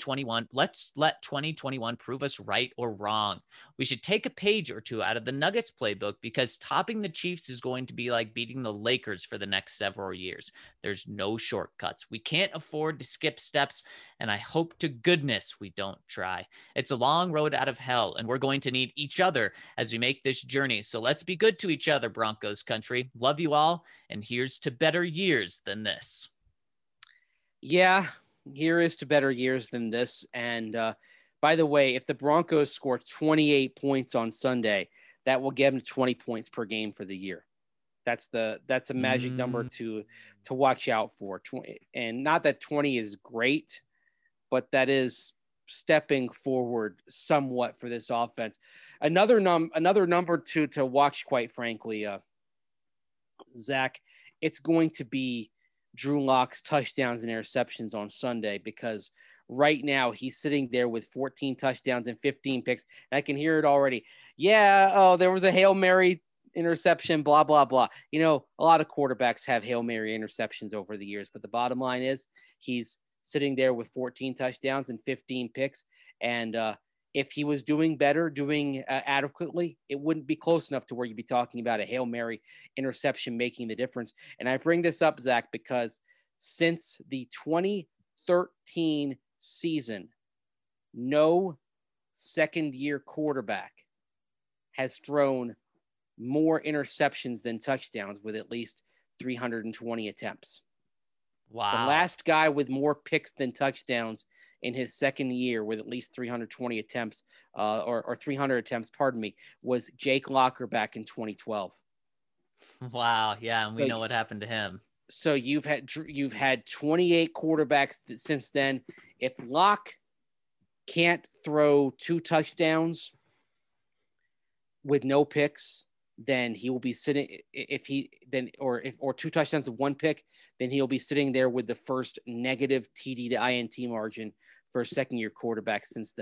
let 2021 prove us right or wrong. We should take a page or two out of the Nuggets playbook because topping the Chiefs is going to be like beating the Lakers for the next several years. There's no shortcuts. We can't afford to skip steps, and I hope to goodness we don't try. It's a long road out of hell, and we're going to need each other as we make this journey. So let's be good to each other, Broncos country. Love you all, and here's to better years than this. Yeah, here is to better years than this. And by the way, if the Broncos score 28 points on Sunday, that will get them 20 points per game for the year. That's a magic number to watch out for. 20, and not that 20 is great, but that is stepping forward somewhat for this offense. Another number to watch, quite frankly, Zach, it's going to be Drew Lock's touchdowns and interceptions on Sunday, because right now he's sitting there with 14 touchdowns and 15 picks. And I can hear it already. Yeah. Oh, there was a Hail Mary interception, blah, blah, blah. You know, a lot of quarterbacks have Hail Mary interceptions over the years, but the bottom line is he's sitting there with 14 touchdowns and 15 picks. And if he was doing better, doing adequately, it wouldn't be close enough to where you'd be talking about a Hail Mary interception making the difference. And I bring this up, Zach, because since the 2013 season, no second-year quarterback has thrown more interceptions than touchdowns with at least 320 attempts. Wow. The last guy with more picks than touchdowns in his second year with at least 320 attempts or 300 attempts, was Jake Locker back in 2012. Wow. Yeah. And we know what happened to him. So you've had 28 quarterbacks since then. If Lock can't throw 2 touchdowns with no picks, then he will be sitting. Or 2 touchdowns with 1 pick, then he'll be sitting there with the first negative TD to INT margin for a second-year quarterback since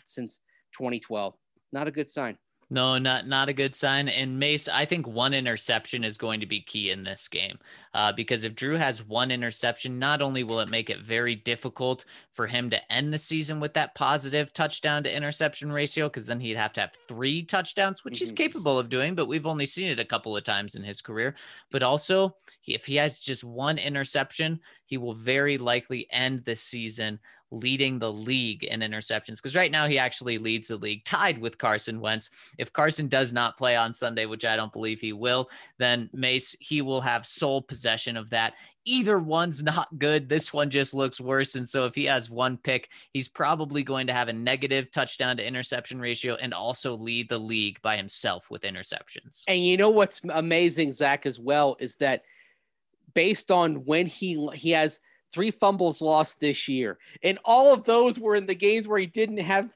2012. Not a good sign. No, not a good sign. And Mace, I think 1 interception is going to be key in this game because if Drew has 1 interception, not only will it make it very difficult for him to end the season with that positive touchdown to interception ratio, because then he'd have to have 3 touchdowns, which he's capable of doing, but we've only seen it a couple of times in his career. But also, if he has just 1 interception, he will very likely end the season leading the league in interceptions, because right now he actually leads the league tied with Carson Wentz. If Carson does not play on Sunday, which I don't believe he will, then Mace, he will have sole possession of that. Either one's not good. This one just looks worse. And so if he has 1 pick, he's probably going to have a negative touchdown to interception ratio and also lead the league by himself with interceptions. And you know what's amazing, Zach, as well, is that based on when he has 3 fumbles lost this year, and all of those were in the games where he didn't have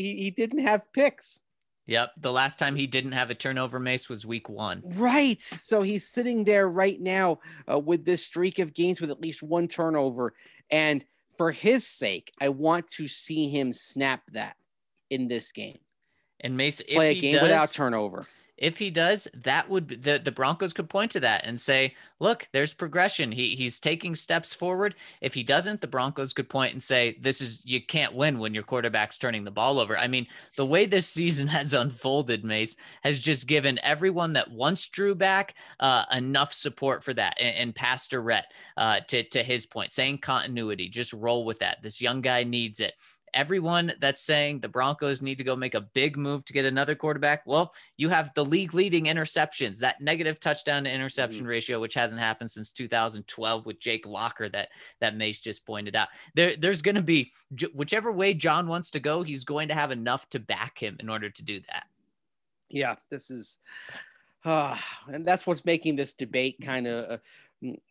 picks. Yep. The last time he didn't have a turnover, Mace, was week 1. Right. So he's sitting there right now with this streak of games with at least 1 turnover. And for his sake, I want to see him snap that in this game. And Mace, if play a he game does, without turnover. If he does, that would be, the Broncos could point to that and say, look, there's progression. He's taking steps forward. If he doesn't, the Broncos could point and say, you can't win when your quarterback's turning the ball over. I mean, the way this season has unfolded, Mace, has just given everyone that once Drew back enough support for that. And Pastor Rhett, to his point, saying continuity, just roll with that. This young guy needs it. Everyone that's saying the Broncos need to go make a big move to get another quarterback. Well, you have the league leading interceptions, that negative touchdown to interception ratio, which hasn't happened since 2012 with Jake Locker that Mace just pointed out. There's going to be, whichever way John wants to go, he's going to have enough to back him in order to do that. Yeah, this is, and that's what's making this debate kind of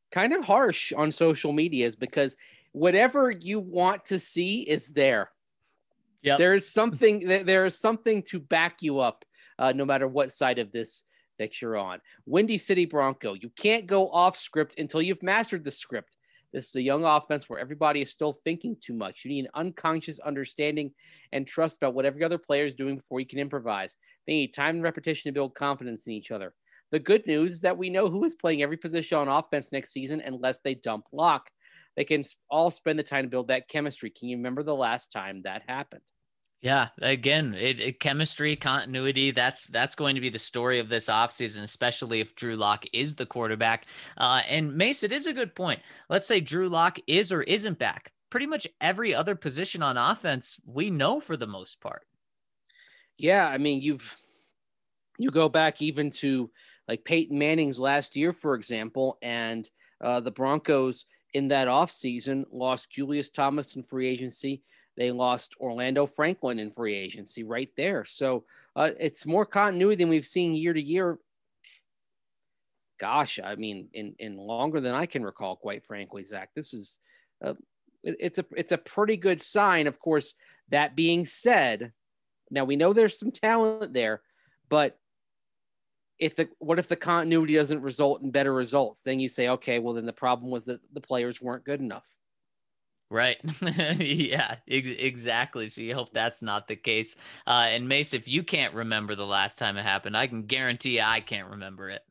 kind of harsh on social medias because whatever you want to see is there. Yep. There is something to back you up, no matter what side of this that you're on. Windy City Bronco, you can't go off script until you've mastered the script. This is a young offense where everybody is still thinking too much. You need an unconscious understanding and trust about what every other player is doing before you can improvise. They need time and repetition to build confidence in each other. The good news is that we know who is playing every position on offense next season unless they dump Locke. They can all spend the time to build that chemistry. Can you remember the last time that happened? Yeah, again, chemistry, continuity, that's going to be the story of this offseason, especially if Drew Lock is the quarterback. And Mace, it is a good point. Let's say Drew Lock is or isn't back. Pretty much every other position on offense, we know for the most part. Yeah, I mean, you go back even to like Peyton Manning's last year, for example, and the Broncos in that offseason lost Julius Thomas in free agency. They lost Orlando Franklin in free agency right there. So it's more continuity than we've seen year to year. Gosh, I mean, in longer than I can recall, quite frankly, Zach. This is it's a pretty good sign. Of course, that being said, now we know there's some talent there, but what if the continuity doesn't result in better results? Then you say, okay, well then the problem was that the players weren't good enough. Right. Yeah, exactly. So you hope that's not the case. And Mace, if you can't remember the last time it happened, I can guarantee I can't remember it.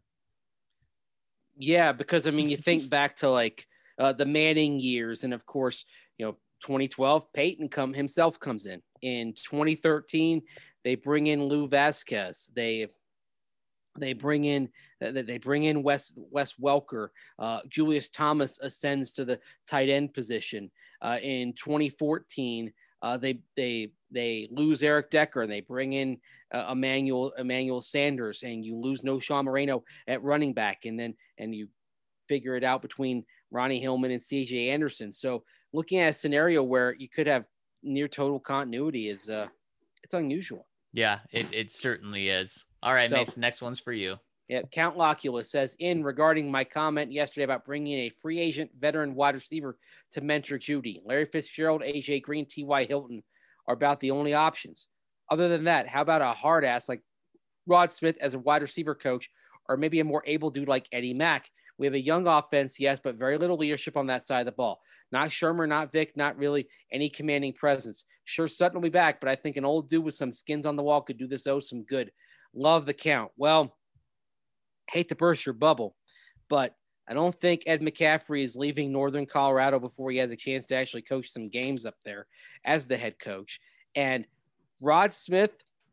Yeah, because I mean, you think back to like the Manning years, and of course, 2012, Peyton himself comes in. In 2013, they bring in Lou Vasquez. They bring in Wes Welker. Julius Thomas ascends to the tight end position. In 2014, they lose Eric Decker and they bring in Emmanuel Sanders, and you lose Sean Moreno at running back, and you figure it out between Ronnie Hillman and CJ Anderson. So looking at a scenario where you could have near total continuity is it's unusual. Yeah, it certainly is. All right, so, Mason, next one's for you. Yeah, Count Locula says, regarding my comment yesterday about bringing a free agent veteran wide receiver to mentor Judy, Larry Fitzgerald, AJ Green, T.Y. Hilton are about the only options. Other than that, how about a hard ass like Rod Smith as a wide receiver coach, or maybe a more able dude like Eddie Mack? We have a young offense, yes, but very little leadership on that side of the ball. Not Shermer, not Vic, not really any commanding presence. Sure, Sutton will be back, but I think an old dude with some skins on the wall could do this some good. Love the Count. Well, hate to burst your bubble, but I don't think Ed McCaffrey is leaving Northern Colorado before he has a chance to actually coach some games up there as the head coach. And Rod Smith,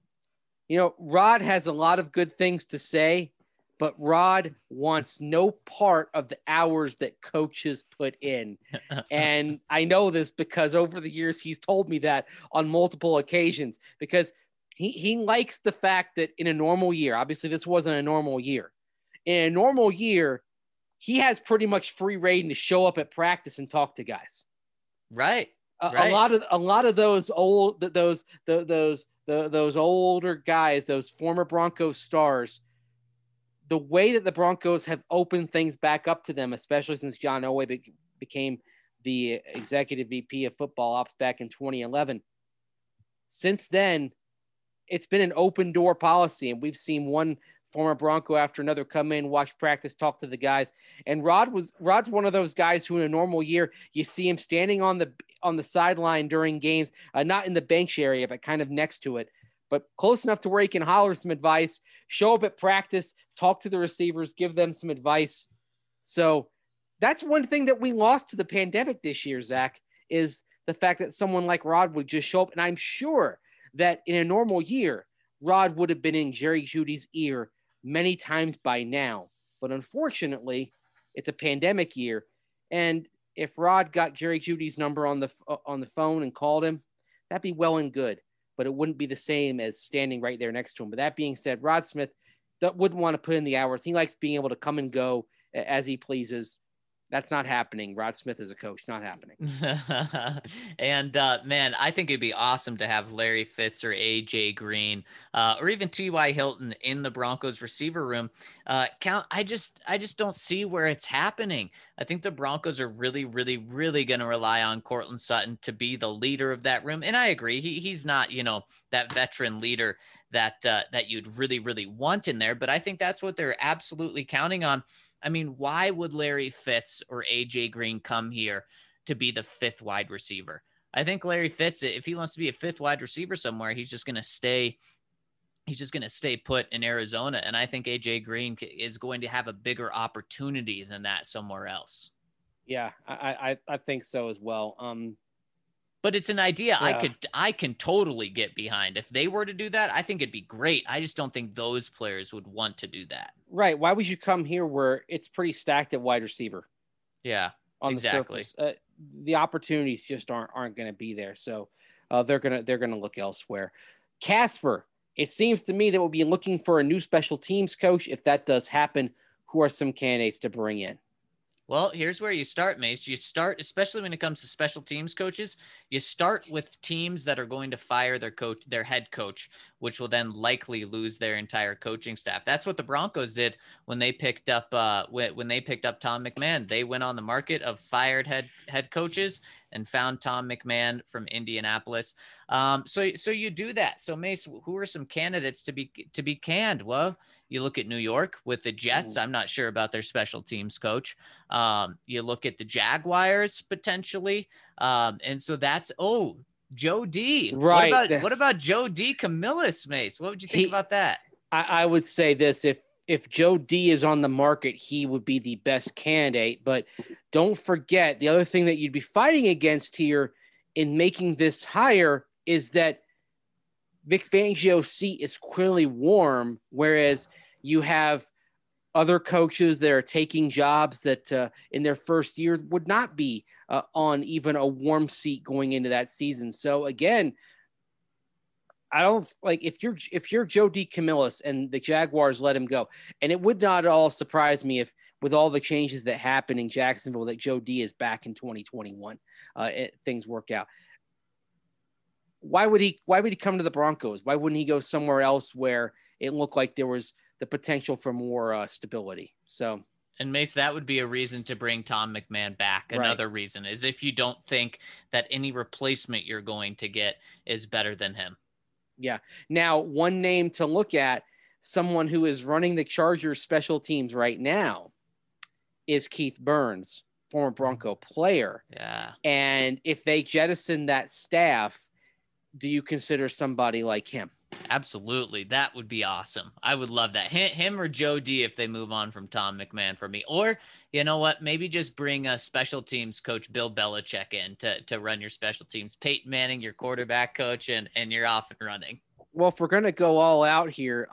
Rod has a lot of good things to say, but Rod wants no part of the hours that coaches put in. And I know this because over the years, he's told me that on multiple occasions, because he likes the fact that in a normal year, obviously this wasn't a normal year. In a normal year, he has pretty much free reign to show up at practice and talk to guys. Right. A lot of those older guys, those former Broncos stars, the way that the Broncos have opened things back up to them, especially since John Elway became the executive VP of football ops back in 2011. Since then, it's been an open door policy, and we've seen one former Bronco after another come in, watch practice, talk to the guys. And Rod's one of those guys who in a normal year, you see him standing on the sideline during games, not in the bench area, but kind of next to it, but close enough to where he can holler some advice, show up at practice, talk to the receivers, give them some advice. So that's one thing that we lost to the pandemic this year, Zach, is the fact that someone like Rod would just show up. And I'm sure that in a normal year, Rod would have been in Jerry Jeudy's ear many times by now. But unfortunately, it's a pandemic year. And if Rod got Jerry Jeudy's number on the phone and called him, that'd be well and good. But it wouldn't be the same as standing right there next to him. But that being said, Rod Smith wouldn't want to put in the hours. He likes being able to come and go as he pleases. That's not happening. Rod Smith is a coach, not happening. And man, I think it'd be awesome to have Larry Fitz or AJ Green or even T.Y. Hilton in the Broncos receiver room. I just don't see where it's happening. I think the Broncos are really, really, really going to rely on Courtland Sutton to be the leader of that room. And I agree, he's not, that veteran leader that you'd really, really want in there. But I think that's what they're absolutely counting on. I mean, why would Larry Fitz or AJ Green come here to be the fifth wide receiver? I think Larry Fitz, if he wants to be a fifth wide receiver somewhere, he's just going to stay put in Arizona. And I think AJ Green is going to have a bigger opportunity than that somewhere else. Yeah, I think so as well. But it's an idea Yeah. I can totally get behind. If they were to do that, I think it'd be great. I just don't think those players would want to do that. Right. Why would you come here where it's pretty stacked at wide receiver? Yeah, on exactly. the surface. The opportunities just aren't going to be there. So they're gonna look elsewhere. Casper, it seems to me that we'll be looking for a new special teams coach. If that does happen, who are some candidates to bring in? Well, here's where you start, Mace. You start, especially when it comes to special teams coaches, you start with teams that are going to fire their head coach, which will then likely lose their entire coaching staff. That's what the Broncos did when they picked up Tom McMahon. They went on the market of fired head coaches and found Tom McMahon from Indianapolis. So you do that. So Mace, who are some candidates to be canned? Well, you look at New York with the Jets. I'm not sure about their special teams coach. You look at the Jaguars potentially. And so that's, Joe D. Right. What about Joe D. Camillus, Mace? What would you think about that? I would say this, if Joe D is on the market, he would be the best candidate. But don't forget, the other thing that you'd be fighting against here in making this hire is that Vic Fangio's seat is clearly warm, whereas you have other coaches that are taking jobs that in their first year would not be on even a warm seat going into that season. So again, I don't like if you're Joe D. Camillus and the Jaguars let him go, and it would not at all surprise me if with all the changes that happen in Jacksonville that Joe D. is back in 2021. Things work out. Why would he come to the Broncos? Why wouldn't he go somewhere else where it looked like there was the potential for more stability? So, and Mace, that would be a reason to bring Tom McMahon back. Another reason is if you don't think that any replacement you're going to get is better than him. Yeah. Now, one name to look at, someone who is running the Chargers special teams right now, is Keith Burns, former Bronco player. Yeah. And if they jettison that staff, do you consider somebody like him? Absolutely. That would be awesome. I would love that. Him or Joe D if they move on from Tom McMahon for me. Or, you know what, maybe just bring a special teams coach, Bill Belichick, in to run your special teams. Peyton Manning, your quarterback coach, and you're off and running. Well, if we're going to go all out here,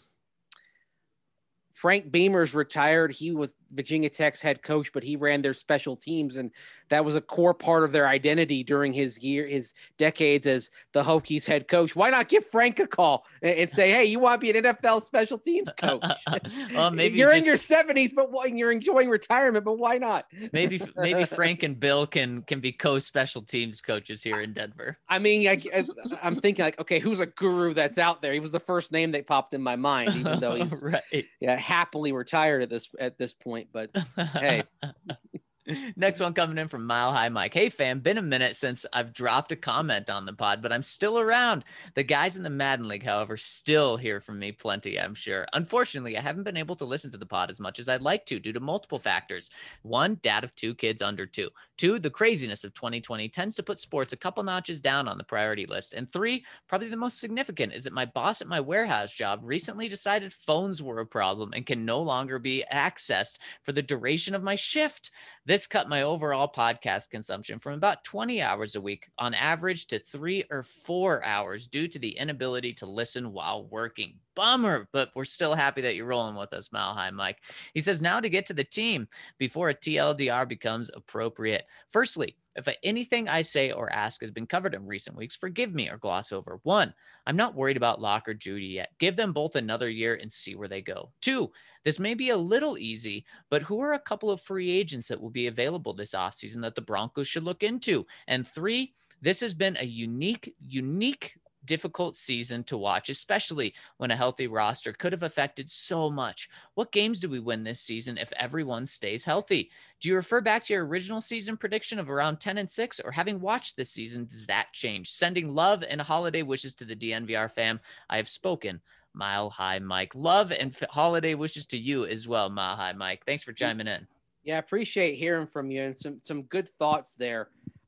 Frank Beamer's retired. He was Virginia Tech's head coach, but he ran their special teams, and that was a core part of their identity during his decades as the Hokies head coach. Why not give Frank a call and say, "Hey, you want to be an NFL special teams coach? Well, maybe you're in your 70s, but you're enjoying retirement. But why not?" Maybe Frank and Bill can be co-special teams coaches here in Denver. I mean, I'm thinking like, okay, who's a guru that's out there? He was the first name that popped in my mind, even though he's right. Happily retired at this point. But hey. Next one coming in from Mile High Mike. Hey fam, been a minute since I've dropped a comment on the pod, but I'm still around. The guys in the Madden League, however, still hear from me plenty, I'm sure. Unfortunately, I haven't been able to listen to the pod as much as I'd like to due to multiple factors. 1, dad of 2 kids under 2. 2, the craziness of 2020 tends to put sports a couple notches down on the priority list. And 3, probably the most significant, is that my boss at my warehouse job recently decided phones were a problem and can no longer be accessed for the duration of my shift. This cut my overall podcast consumption from about 20 hours a week on average to 3 or 4 hours due to the inability to listen while working. Bummer, but we're still happy that you're rolling with us, Mile High Mike. He says, now to get to the team before a TLDR becomes appropriate. Firstly, If anything I say or ask has been covered in recent weeks, forgive me or gloss over. 1, I'm not worried about Locke or Judy yet. Give them both another year and see where they go. 2, this may be a little easy, but who are a couple of free agents that will be available this offseason that the Broncos should look into? And 3, this has been a unique, difficult season to watch, especially when a healthy roster could have affected so much. What games do we win this season if everyone stays healthy? Do you refer back to your original season prediction of around 10-6, or having watched this season, does that change? Sending love and holiday wishes to the DNVR fam. I have spoken. Mile High Mike. Love and holiday wishes to you as well, Mile High Mike. Thanks for chiming in. Yeah, I appreciate hearing from you, and some good thoughts there.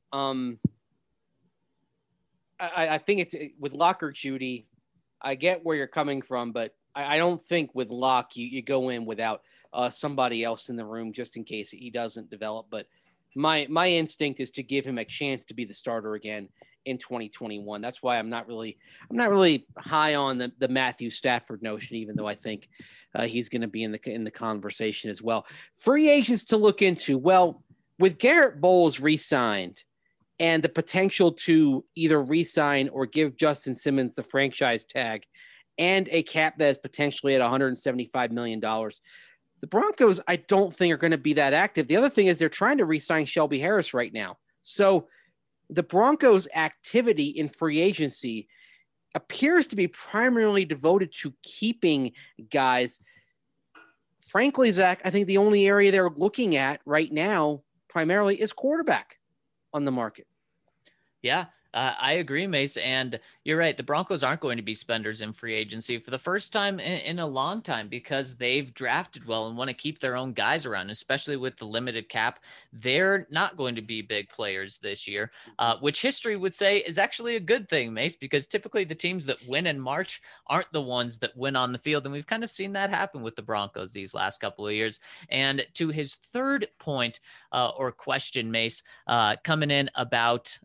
I think it's with Locke or Judy. I get where you're coming from, but I don't think with Locke you go in without somebody else in the room just in case he doesn't develop. But my instinct is to give him a chance to be the starter again in 2021. That's why I'm not really high on the Matthew Stafford notion, even though I think he's going to be in the conversation as well. Free agents to look into. Well, with Garrett Bowles re-signed, and the potential to either re-sign or give Justin Simmons the franchise tag and a cap that is potentially at $175 million. The Broncos, I don't think, are going to be that active. The other thing is they're trying to re-sign Shelby Harris right now. So the Broncos' activity in free agency appears to be primarily devoted to keeping guys. Frankly, Zach, I think the only area they're looking at right now primarily is quarterback on the market. Yeah, I agree, Mace. And you're right. The Broncos aren't going to be spenders in free agency for the first time in a long time because they've drafted well and want to keep their own guys around, especially with the limited cap. They're not going to be big players this year, which history would say is actually a good thing, Mace, because typically the teams that win in March aren't the ones that win on the field. And we've kind of seen that happen with the Broncos these last couple of years. And to his third point or question, Mace, coming in about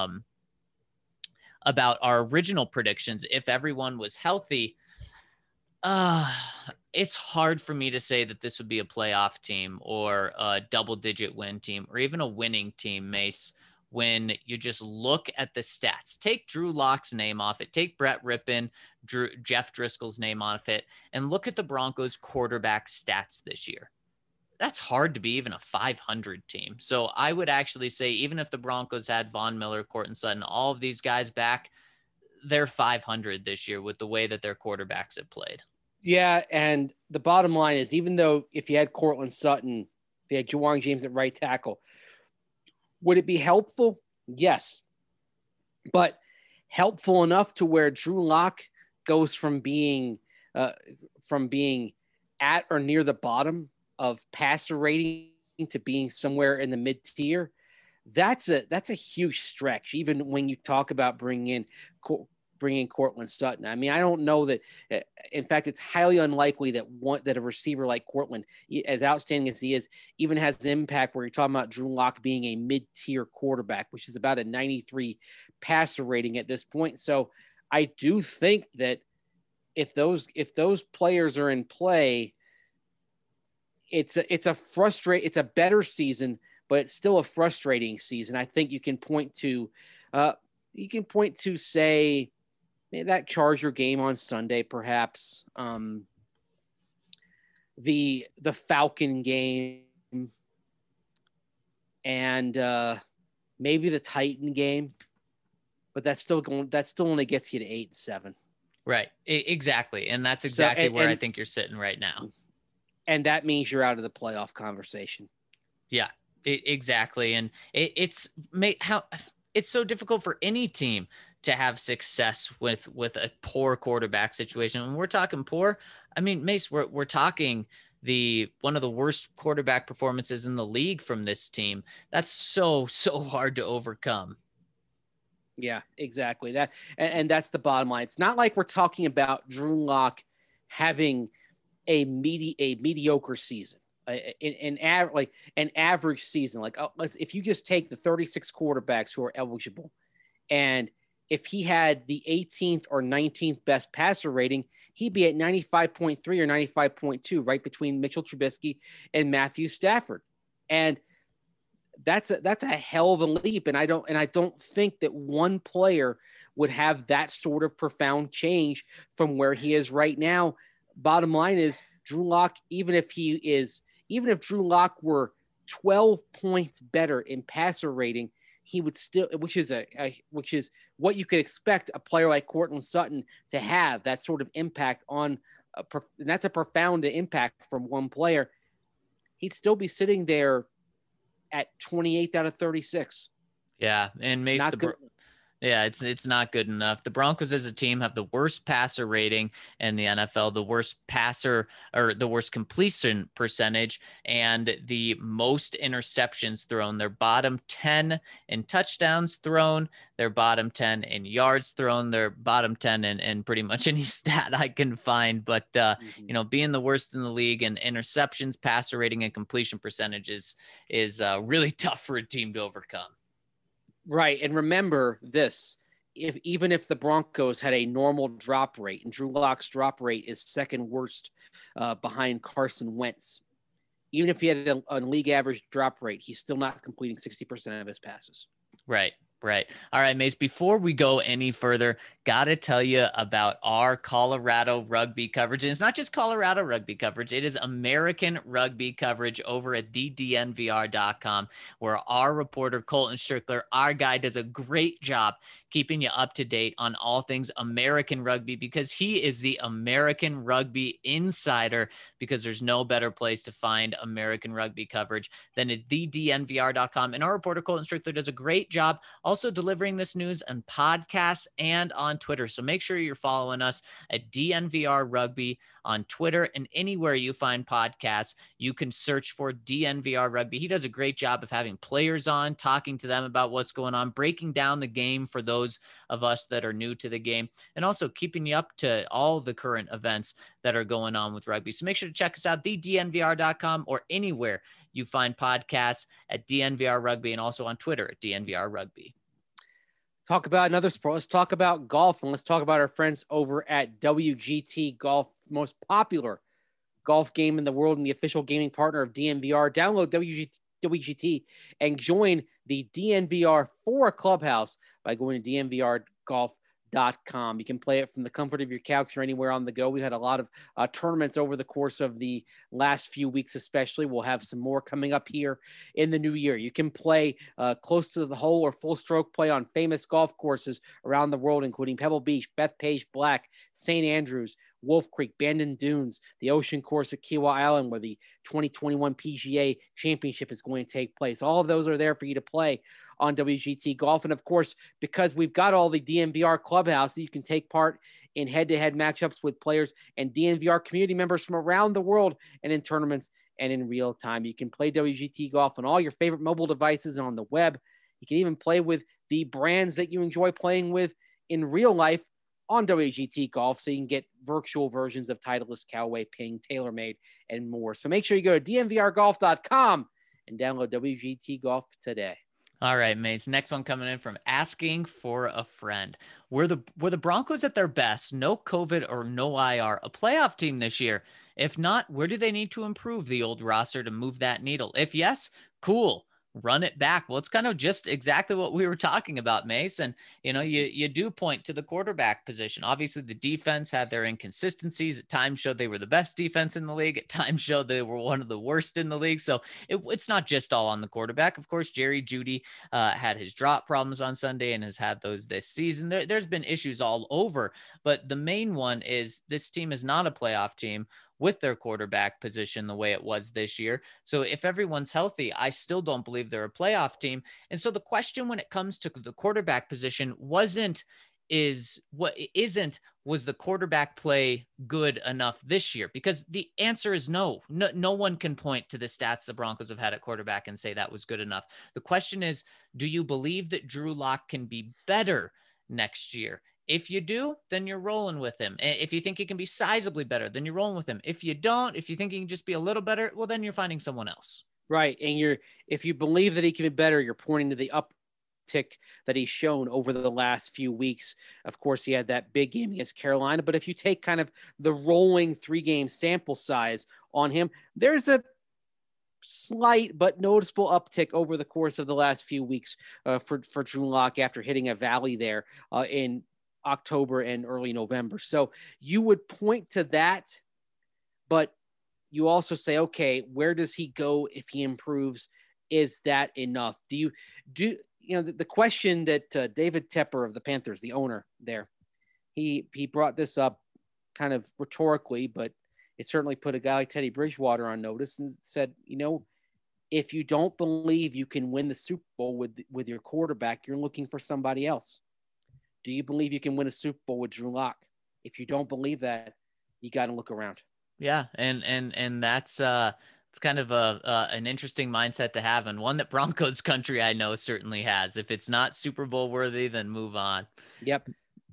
our original predictions, if everyone was healthy, it's hard for me to say that this would be a playoff team or a double-digit win team or even a winning team, Mace, when you just look at the stats. Take Drew Lock's name off it. Take Brett Rippon, Jeff Driscoll's name off it, and look at the Broncos quarterback stats this year. That's hard to be even a 500 team. So I would actually say, even if the Broncos had Von Miller, Courtland Sutton, all of these guys back, they're 500 this year with the way that their quarterbacks have played. Yeah, and the bottom line is, even though if you had Courtland Sutton, if you had Ja'Wuan James at right tackle, would it be helpful? Yes. But helpful enough to where Drew Lock goes from being at or near the bottom of passer rating to being somewhere in the mid-tier, that's a huge stretch, even when you talk about bringing in Courtland Sutton. I mean, I don't know that. In fact, it's highly unlikely that a receiver like Courtland, as outstanding as he is, even has an impact where you're talking about Drew Lock being a mid-tier quarterback, which is about a 93 passer rating at this point. So I do think that if those players are in play, it's a better season, but it's still a frustrating season. I think you can point to say maybe that Charger game on Sunday, perhaps the Falcon game, and maybe the Titan game, but that still only gets you to 8-7. Right. Exactly. And that's exactly where I think you're sitting right now. And that means you're out of the playoff conversation. Yeah, exactly. And it's so difficult for any team to have success with a poor quarterback situation. When we're talking poor, I mean, Mace, we're talking one of the worst quarterback performances in the league from this team. That's so hard to overcome. Yeah, exactly. And that's the bottom line. It's not like we're talking about Drew Lock having a mediocre season, an average season. Like, if you just take the 36 quarterbacks who are eligible, and if he had the 18th or 19th best passer rating, he'd be at 95.3 or 95.2, right between Mitchell Trubisky and Matthew Stafford. And that's a hell of a leap. And I don't think that one player would have that sort of profound change from where he is right now. Bottom line is Drew Lock, even if Drew Lock were 12 points better in passer rating, he would still, which is what you could expect a player like Courtland Sutton to have, that sort of impact on, and that's a profound impact from one player. He'd still be sitting there at 28th out of 36. Yeah, and Mace, yeah, it's not good enough. The Broncos as a team have the worst passer rating in the NFL, the worst passer or the worst completion percentage, and the most interceptions thrown. They're bottom 10 in touchdowns thrown. They're bottom 10 in yards thrown. They're bottom 10 in pretty much any stat I can find. But, being the worst in the league in interceptions, passer rating, and completion percentages is really tough for a team to overcome. Right. And remember this, even if the Broncos had a normal drop rate, and Drew Lock's drop rate is second worst behind Carson Wentz, even if he had a league average drop rate, he's still not completing 60% of his passes. Right. All right, Mace, before we go any further, got to tell you about our Colorado rugby coverage. And it's not just Colorado rugby coverage. It is American rugby coverage over at thednvr.com, where our reporter, Colton Strickler, our guy, does a great job keeping you up to date on all things American rugby, because he is the American rugby insider, because there's no better place to find American rugby coverage than at thednvr.com. And our reporter, Colton Strickler, does a great job also delivering this news on podcasts and on Twitter. So make sure you're following us at DNVR Rugby on Twitter, and anywhere you find podcasts, you can search for DNVR Rugby. He does a great job of having players on, talking to them about what's going on, breaking down the game for those of us that are new to the game, and also keeping you up to all the current events that are going on with rugby. So make sure to check us out, thednvr.com, or anywhere you find podcasts at DNVR Rugby, and also on Twitter at DNVR Rugby. Talk about another sport. Let's talk about golf, and let's talk about our friends over at WGT Golf, most popular golf game in the world and the official gaming partner of DNVR. Download WGT and join the DNVR 4 Clubhouse by going to DNVRGolf.com. You can play it from the comfort of your couch or anywhere on the go. We've had a lot of tournaments over the course of the last few weeks, especially. We'll have some more coming up here in the new year. You can play close to the hole or full stroke play on famous golf courses around the world, including Pebble Beach, Bethpage Black, St. Andrews, Wolf Creek, Bandon Dunes, the Ocean Course at Kiawah Island, where the 2021 PGA Championship is going to take place. All of those are there for you to play on WGT Golf. And of course, because we've got all the DNVR Clubhouse, you can take part in head-to-head matchups with players and DNVR community members from around the world, and in tournaments and in real time. You can play WGT Golf on all your favorite mobile devices and on the web. You can even play with the brands that you enjoy playing with in real life on WGT Golf, so you can get virtual versions of Titleist, Callaway, Ping, TaylorMade, and more. So make sure you go to DNVRGolf.com and download WGT Golf today. All right, mates. Next one coming in from Asking for a Friend. Were the Broncos at their best, no COVID or no IR, a playoff team this year? If not, where do they need to improve the old roster to move that needle? If yes, cool. Run it back. Well, it's kind of just exactly what we were talking about, Mace. And, you do point to the quarterback position. Obviously, the defense had their inconsistencies. At times showed they were the best defense in the league. At times showed they were one of the worst in the league. So it's not just all on the quarterback. Of course, Jerry Jeudy had his drop problems on Sunday and has had those this season. There's been issues all over. But the main one is this team is not a playoff team with their quarterback position the way it was this year. So if everyone's healthy, I still don't believe they're a playoff team. And so the question when it comes to the quarterback position was the quarterback play good enough this year? Because the answer is no. No one can point to the stats the Broncos have had at quarterback and say that was good enough. The question is, do you believe that Drew Lock can be better next year? If you do, then you're rolling with him. If you think he can be sizably better, then you're rolling with him. If you don't, if you think he can just be a little better, well, then you're finding someone else. Right. And if you believe that he can be better, you're pointing to the uptick that he's shown over the last few weeks. Of course, he had that big game against Carolina, but if you take kind of the rolling 3-game sample size on him, there's a slight but noticeable uptick over the course of the last few weeks for Drew Lock after hitting a valley there in October and early November. So you would point to that, but you also say, okay, where does he go if he improves? Is that enough? The question that David Tepper of the Panthers, the owner there, he brought this up kind of rhetorically, but it certainly put a guy like Teddy Bridgewater on notice and said, if you don't believe you can win the Super Bowl with your quarterback, you're looking for somebody else. Do you believe you can win a Super Bowl with Drew Lock? If you don't believe that, you got to look around. Yeah. And that's it's kind of an interesting mindset to have, and one that Broncos country I know certainly has. If it's not Super Bowl worthy, then move on. Yep.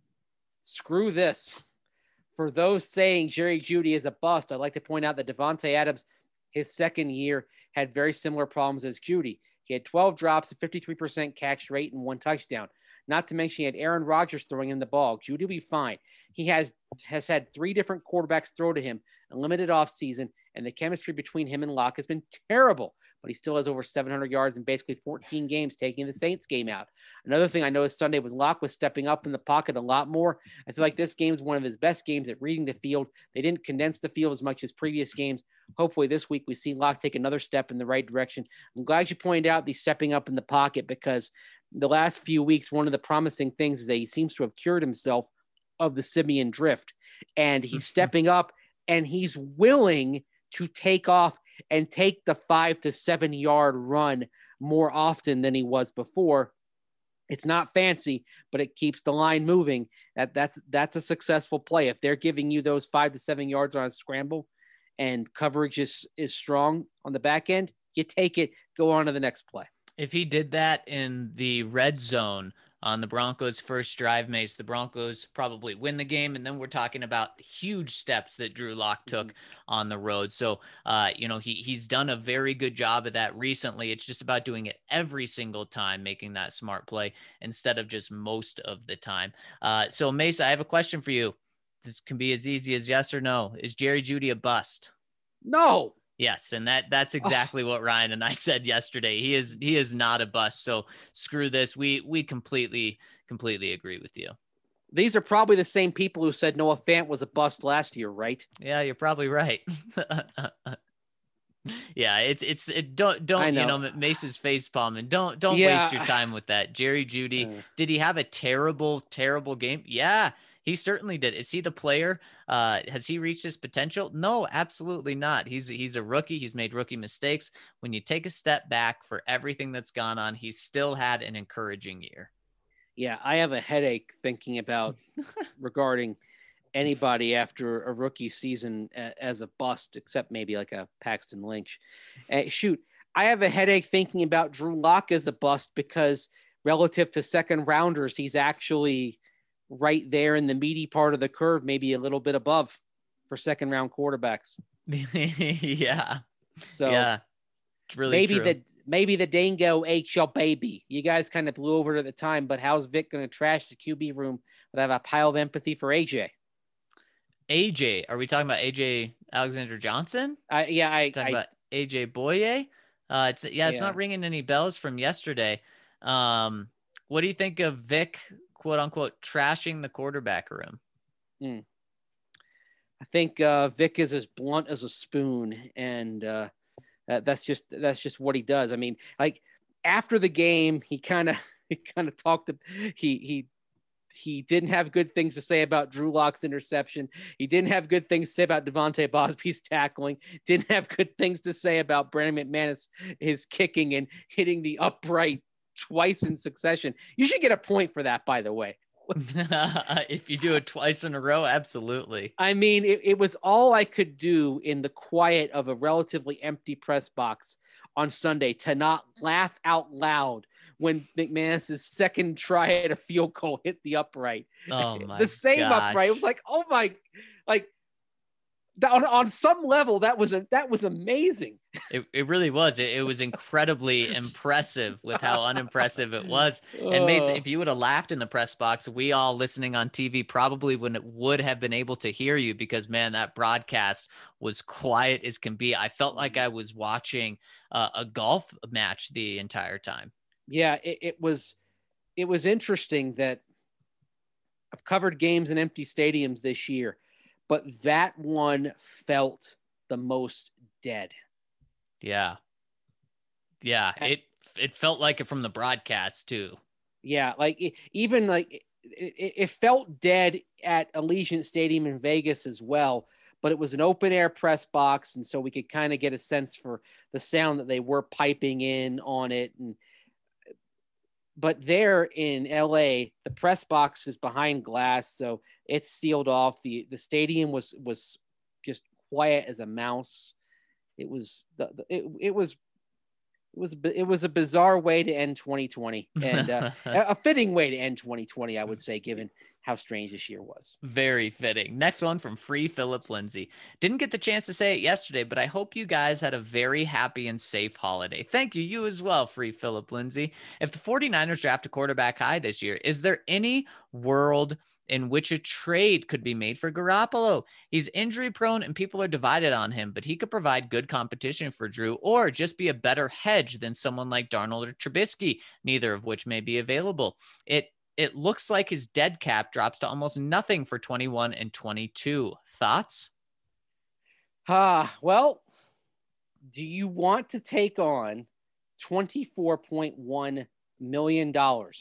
Screw this. For those saying Jerry Jeudy is a bust, I'd like to point out that Davante Adams, his second year, had very similar problems as Jeudy. He had 12 drops, a 53% catch rate, and 1 touchdown. Not to mention he had Aaron Rodgers throwing him the ball. Jeudy will be fine. He has had 3 different quarterbacks throw to him, a limited offseason, and the chemistry between him and Locke has been terrible. But he still has over 700 yards in basically 14 games, taking the Saints game out. Another thing I noticed Sunday was Locke was stepping up in the pocket a lot more. I feel like this game is one of his best games at reading the field. They didn't condense the field as much as previous games. Hopefully this week we see Locke take another step in the right direction. I'm glad you pointed out the stepping up in the pocket, because the last few weeks, one of the promising things is that he seems to have cured himself of the simian drift, and he's stepping up and he's willing to take off and take the 5 to 7 yard run more often than he was before. It's not fancy, but it keeps the line moving. That's a successful play. If they're giving you those 5 to 7 yards on a scramble and coverage is strong on the back end, you take it, go on to the next play. If he did that in the red zone on the Broncos' first drive, Mace, the Broncos probably win the game. And then we're talking about huge steps that Drew Lock took on the road. So, he's done a very good job of that recently. It's just about doing it every single time, making that smart play instead of just most of the time. So, Mace, I have a question for you. This can be as easy as yes or no. Is Jerry Jeudy a bust? No. Yes, and that's exactly what Ryan and I said yesterday. He is not a bust. So screw this. We completely agree with you. These are probably the same people who said Noah Fant was a bust last year, right? Yeah, you're probably right. Yeah, don't Mace's face palm, and don't waste your time with that. Jerry Jeudy, did he have a terrible game? Yeah. He certainly did. Is he the player? Has he reached his potential? No, absolutely not. He's a rookie. He's made rookie mistakes. When you take a step back for everything that's gone on, he's still had an encouraging year. Yeah, I have a headache thinking about regarding anybody after a rookie season as a bust, except maybe like a Paxton Lynch. I have a headache thinking about Drew Lock as a bust, because relative to second rounders, he's actually right there in the meaty part of the curve, maybe a little bit above for second round quarterbacks. Yeah. So yeah, it's really maybe the Dango HL baby. You guys kind of blew over it at the time, but how's Vic going to trash the QB room without a pile of empathy for AJ? AJ, are we talking about AJ Alexander Johnson? Talking about AJ Boye. It's not ringing any bells from yesterday. What do you think of Vic, quote unquote, trashing the quarterback room? I think Vic is as blunt as a spoon, and that's just what he does. I mean, like after the game, he kind of talked. He didn't have good things to say about Drew Lock's interception. He didn't have good things to say about Devontae Bosby's tackling. Didn't have good things to say about Brandon McManus, his kicking and hitting the upright twice in succession. You should get a point for that, by the way. If you do it twice in a row, absolutely. I mean, it was all I could do in the quiet of a relatively empty press box on Sunday to not laugh out loud when McManus's second try at a field goal hit the upright. Oh my the same gosh. upright. It was like, oh my, like on some level, that was amazing. It really was. It was incredibly impressive with how unimpressive it was. And Mason, if you would have laughed in the press box, we all listening on TV probably would have been able to hear you, because man, that broadcast was quiet as can be. I felt like I was watching a golf match the entire time. Yeah, it was interesting that I've covered games in empty stadiums this year, but that one felt the most dead. Yeah. Yeah. It felt like it from the broadcast too. Yeah. Like it felt dead at Allegiant Stadium in Vegas as well, but it was an open air press box. And so we could kind of get a sense for the sound that they were piping in on it. But there in LA, the press box is behind glass, so it's sealed off. The stadium was just quiet as a mouse. It was a bizarre way to end 2020, and a fitting way to end 2020, I would say, given how strange this year was. Very fitting. Next one from Free Philip Lindsay. Didn't get the chance to say it yesterday, but I hope you guys had a very happy and safe holiday. Thank you. You as well, Free Philip Lindsay. If the 49ers draft a quarterback high this year, is there any world in which a trade could be made for Garoppolo? He's injury prone and people are divided on him, but he could provide good competition for Drew or just be a better hedge than someone like Darnold or Trubisky, neither of which may be available. It looks like his dead cap drops to almost nothing for 21 and 22. Thoughts? Well, do you want to take on $24.1 million?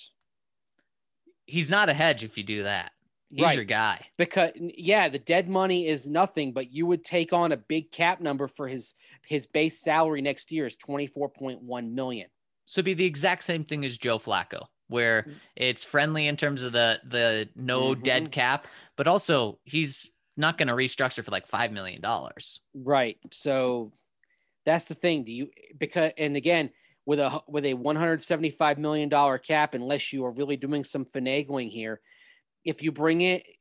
He's not a hedge if you do that. He's your guy. Because, yeah, the dead money is nothing, but you would take on a big cap number for his base salary next year is $24.1 million. So it'd be the exact same thing as Joe Flacco, where it's friendly in terms of the no dead cap, but also he's not going to restructure for like $5 million. Right. So that's the thing. And again, with a $175 million cap, unless you are really doing some finagling here, if you bring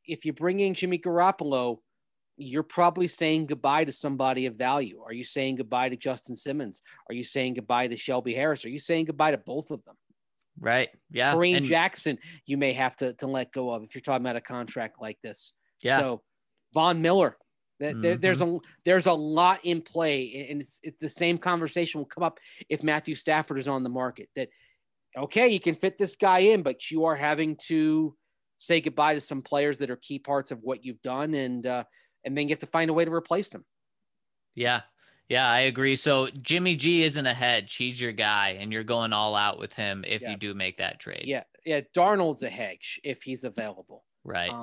in Jimmy Garoppolo, you're probably saying goodbye to somebody of value. Are you saying goodbye to Justin Simmons? Are you saying goodbye to Shelby Harris? Are you saying goodbye to both of them? Right. Yeah. Kareem Jackson, you may have to let go of if you're talking about a contract like this. Yeah. So Von Miller, there's a lot in play, and it's the same conversation will come up if Matthew Stafford is on the market. That okay, you can fit this guy in, but you are having to say goodbye to some players that are key parts of what you've done, and then you have to find a way to replace them. Yeah. Yeah, I agree. So Jimmy G isn't a hedge. He's your guy, and you're going all out with him if you do make that trade. Yeah. Yeah. Darnold's a hedge if he's available. Right.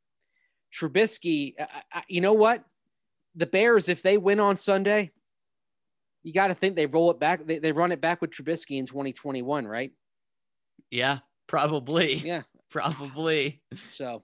Trubisky, you know what? The Bears, if they win on Sunday, you got to think they roll it back. They run it back with Trubisky in 2021, right? Yeah, probably. Yeah. Probably. So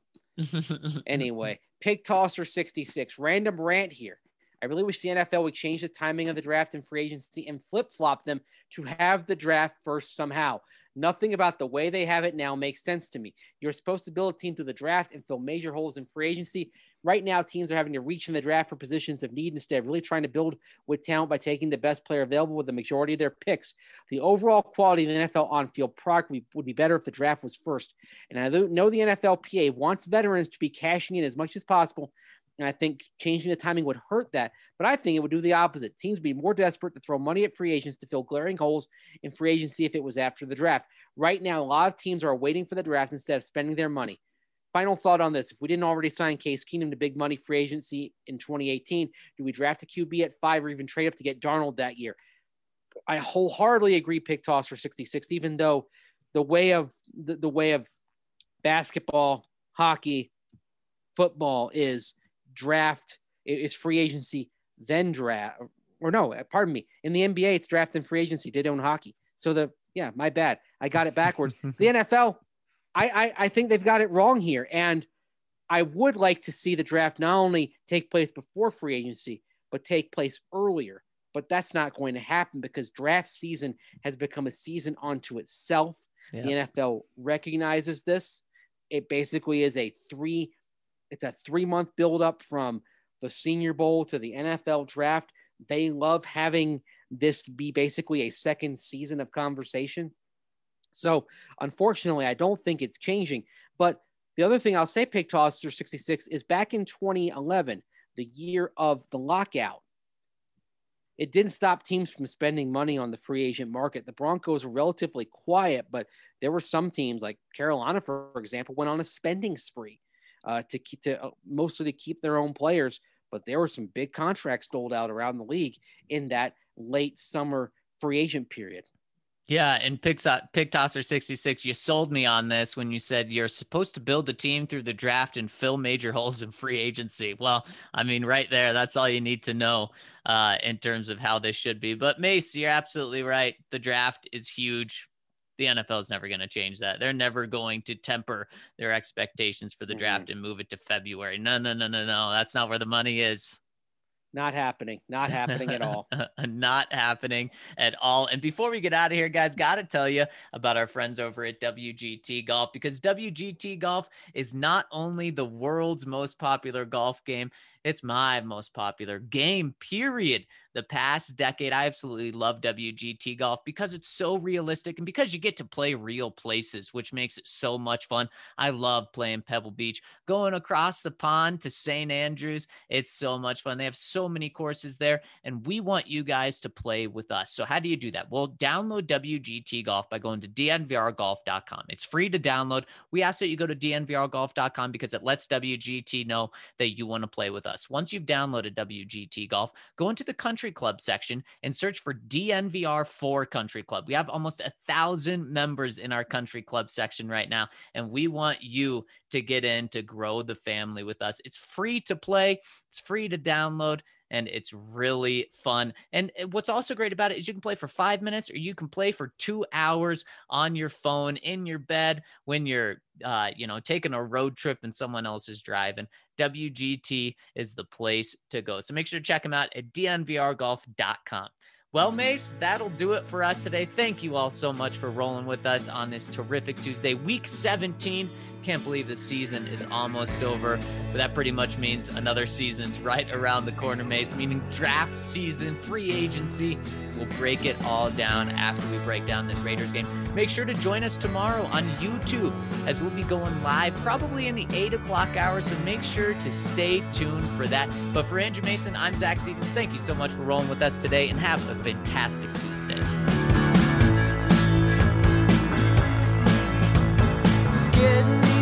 anyway, Pig Tosser 66, random rant here. I really wish the NFL would change the timing of the draft and free agency and flip-flop them to have the draft first somehow. Nothing about the way they have it now makes sense to me. You're supposed to build a team through the draft and fill major holes in free agency. Right now, teams are having to reach in the draft for positions of need instead of really trying to build with talent by taking the best player available with the majority of their picks. The overall quality of the NFL on-field product would be better if the draft was first. And I know the NFLPA wants veterans to be cashing in as much as possible, and I think changing the timing would hurt that. But I think it would do the opposite. Teams would be more desperate to throw money at free agents to fill glaring holes in free agency if it was after the draft. Right now, a lot of teams are waiting for the draft instead of spending their money. Final thought on this. If we didn't already sign Case Keenum to big money free agency in 2018, do we draft a QB at 5 or even trade up to get Darnold that year? I wholeheartedly agree, Pick Toss for 66, even though the way of basketball, hockey, football is draft, it's free agency, then draft. Or no, pardon me. In the NBA, it's draft and free agency. They don't hockey. So my bad. I got it backwards. The NFL, I think they've got it wrong here. And I would like to see the draft not only take place before free agency, but take place earlier. But that's not going to happen because draft season has become a season unto itself. Yeah. The NFL recognizes this. It basically is a 3-month buildup from the Senior Bowl to the NFL draft. They love having this be basically a second season of conversation. So unfortunately, I don't think it's changing. But the other thing I'll say, Pig Tosser 66, is back in 2011, the year of the lockout, it didn't stop teams from spending money on the free agent market. The Broncos were relatively quiet, but there were some teams like Carolina, for example, went on a spending spree mostly to keep their own players. But there were some big contracts doled out around the league in that late summer free agent period. Yeah, and Pig Tosser 66, you sold me on this when you said you're supposed to build the team through the draft and fill major holes in free agency. Well, I mean, right there, that's all you need to know in terms of how this should be. But Mace, you're absolutely right. The draft is huge. The NFL is never going to change that. They're never going to temper their expectations for the draft and move it to February. No. That's not where the money is. Not happening. Not happening at all. Not happening at all. And before we get out of here, guys, got to tell you about our friends over at WGT Golf, because WGT Golf is not only the world's most popular golf game, it's my most popular game, period. The past decade, I absolutely love WGT Golf because it's so realistic and because you get to play real places, which makes it so much fun. I love playing Pebble Beach, going across the pond to St. Andrews. It's so much fun. They have so many courses there, and we want you guys to play with us. So how do you do that? Well, download WGT Golf by going to dnvrgolf.com. It's free to download. We ask that you go to dnvrgolf.com because it lets WGT know that you want to play with us. Once you've downloaded WGT Golf, go into the Country Club section and search for DNVR for Country Club. We have almost 1,000 members in our Country Club section right now, and we want you to get in to grow the family with us. It's free to play, it's free to download, and it's really fun. And what's also great about it is you can play for 5 minutes or you can play for 2 hours on your phone, in your bed, when you're taking a road trip and someone else is driving. WGT is the place to go. So make sure to check them out at dnvrgolf.com. Well, Mace, that'll do it for us today. Thank you all so much for rolling with us on this terrific Tuesday, week 17. Can't believe the season is almost over, but that pretty much means another season's right around the corner, Mace, meaning draft season, free agency. We'll break it all down after we break down this Raiders game. Make sure to join us tomorrow on YouTube as we'll be going live probably in the 8 o'clock hour, so make sure to stay tuned for that. But for Andrew Mason, I'm Zach Stevens. Thank you so much for rolling with us today, and have a fantastic Tuesday. It's getting